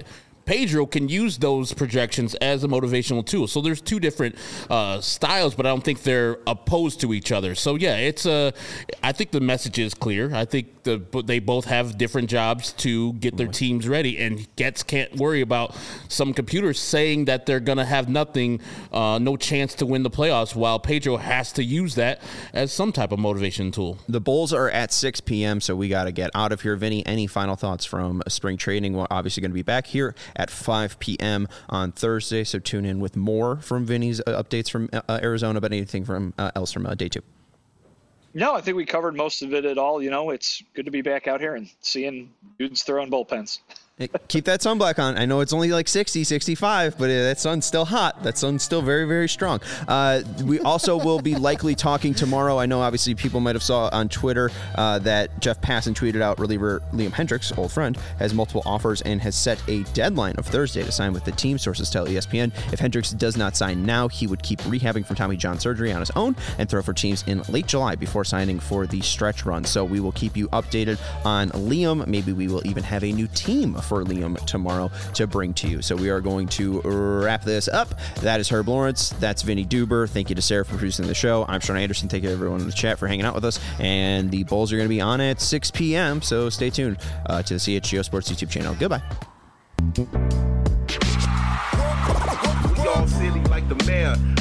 Pedro can use those projections as a motivational tool. So there's two different uh, styles, but I don't think they're opposed to each other. So yeah, it's a. Uh, I think the message is clear. I think the they both have different jobs to get their teams ready, and Getz can't worry about some computers saying that they're going to have nothing, uh, no chance to win the playoffs, while Pedro has to use that as some type of motivation tool. The Bulls are at six p.m., so we got to get out of here. Vinny, any final thoughts from spring training? We're obviously going to be back here at five p.m. on Thursday, so tune in with more from Vinny's uh, updates from uh, Arizona, but anything from uh, else from uh, day two. No, I think we covered most of it at all. You know, it's good to be back out here and seeing dudes throwing bullpens. Keep that sunblock on. I know it's only like sixty, sixty-five, but that sun's still hot. That sun's still very, very strong. Uh, we also will be likely talking tomorrow. I know obviously people might have saw on Twitter uh, that Jeff Passan tweeted out reliever Liam Hendriks, old friend, has multiple offers and has set a deadline of Thursday to sign with the team. Sources tell E S P N if Hendriks does not sign now, he would keep rehabbing from Tommy John surgery on his own and throw for teams in late July before signing for the stretch run. So we will keep you updated on Liam. Maybe we will even have a new team for Liam tomorrow to bring to you. So we are going to wrap this up. That is Herb Lawrence. That's Vinny Duber. Thank you to Sarah for producing the show. I'm Sean Anderson. Thank you to everyone in the chat for hanging out with us. And the Bulls are going to be on at six p.m. So stay tuned uh, to the C H G O Sports YouTube channel. Goodbye. We all silly like the mayor.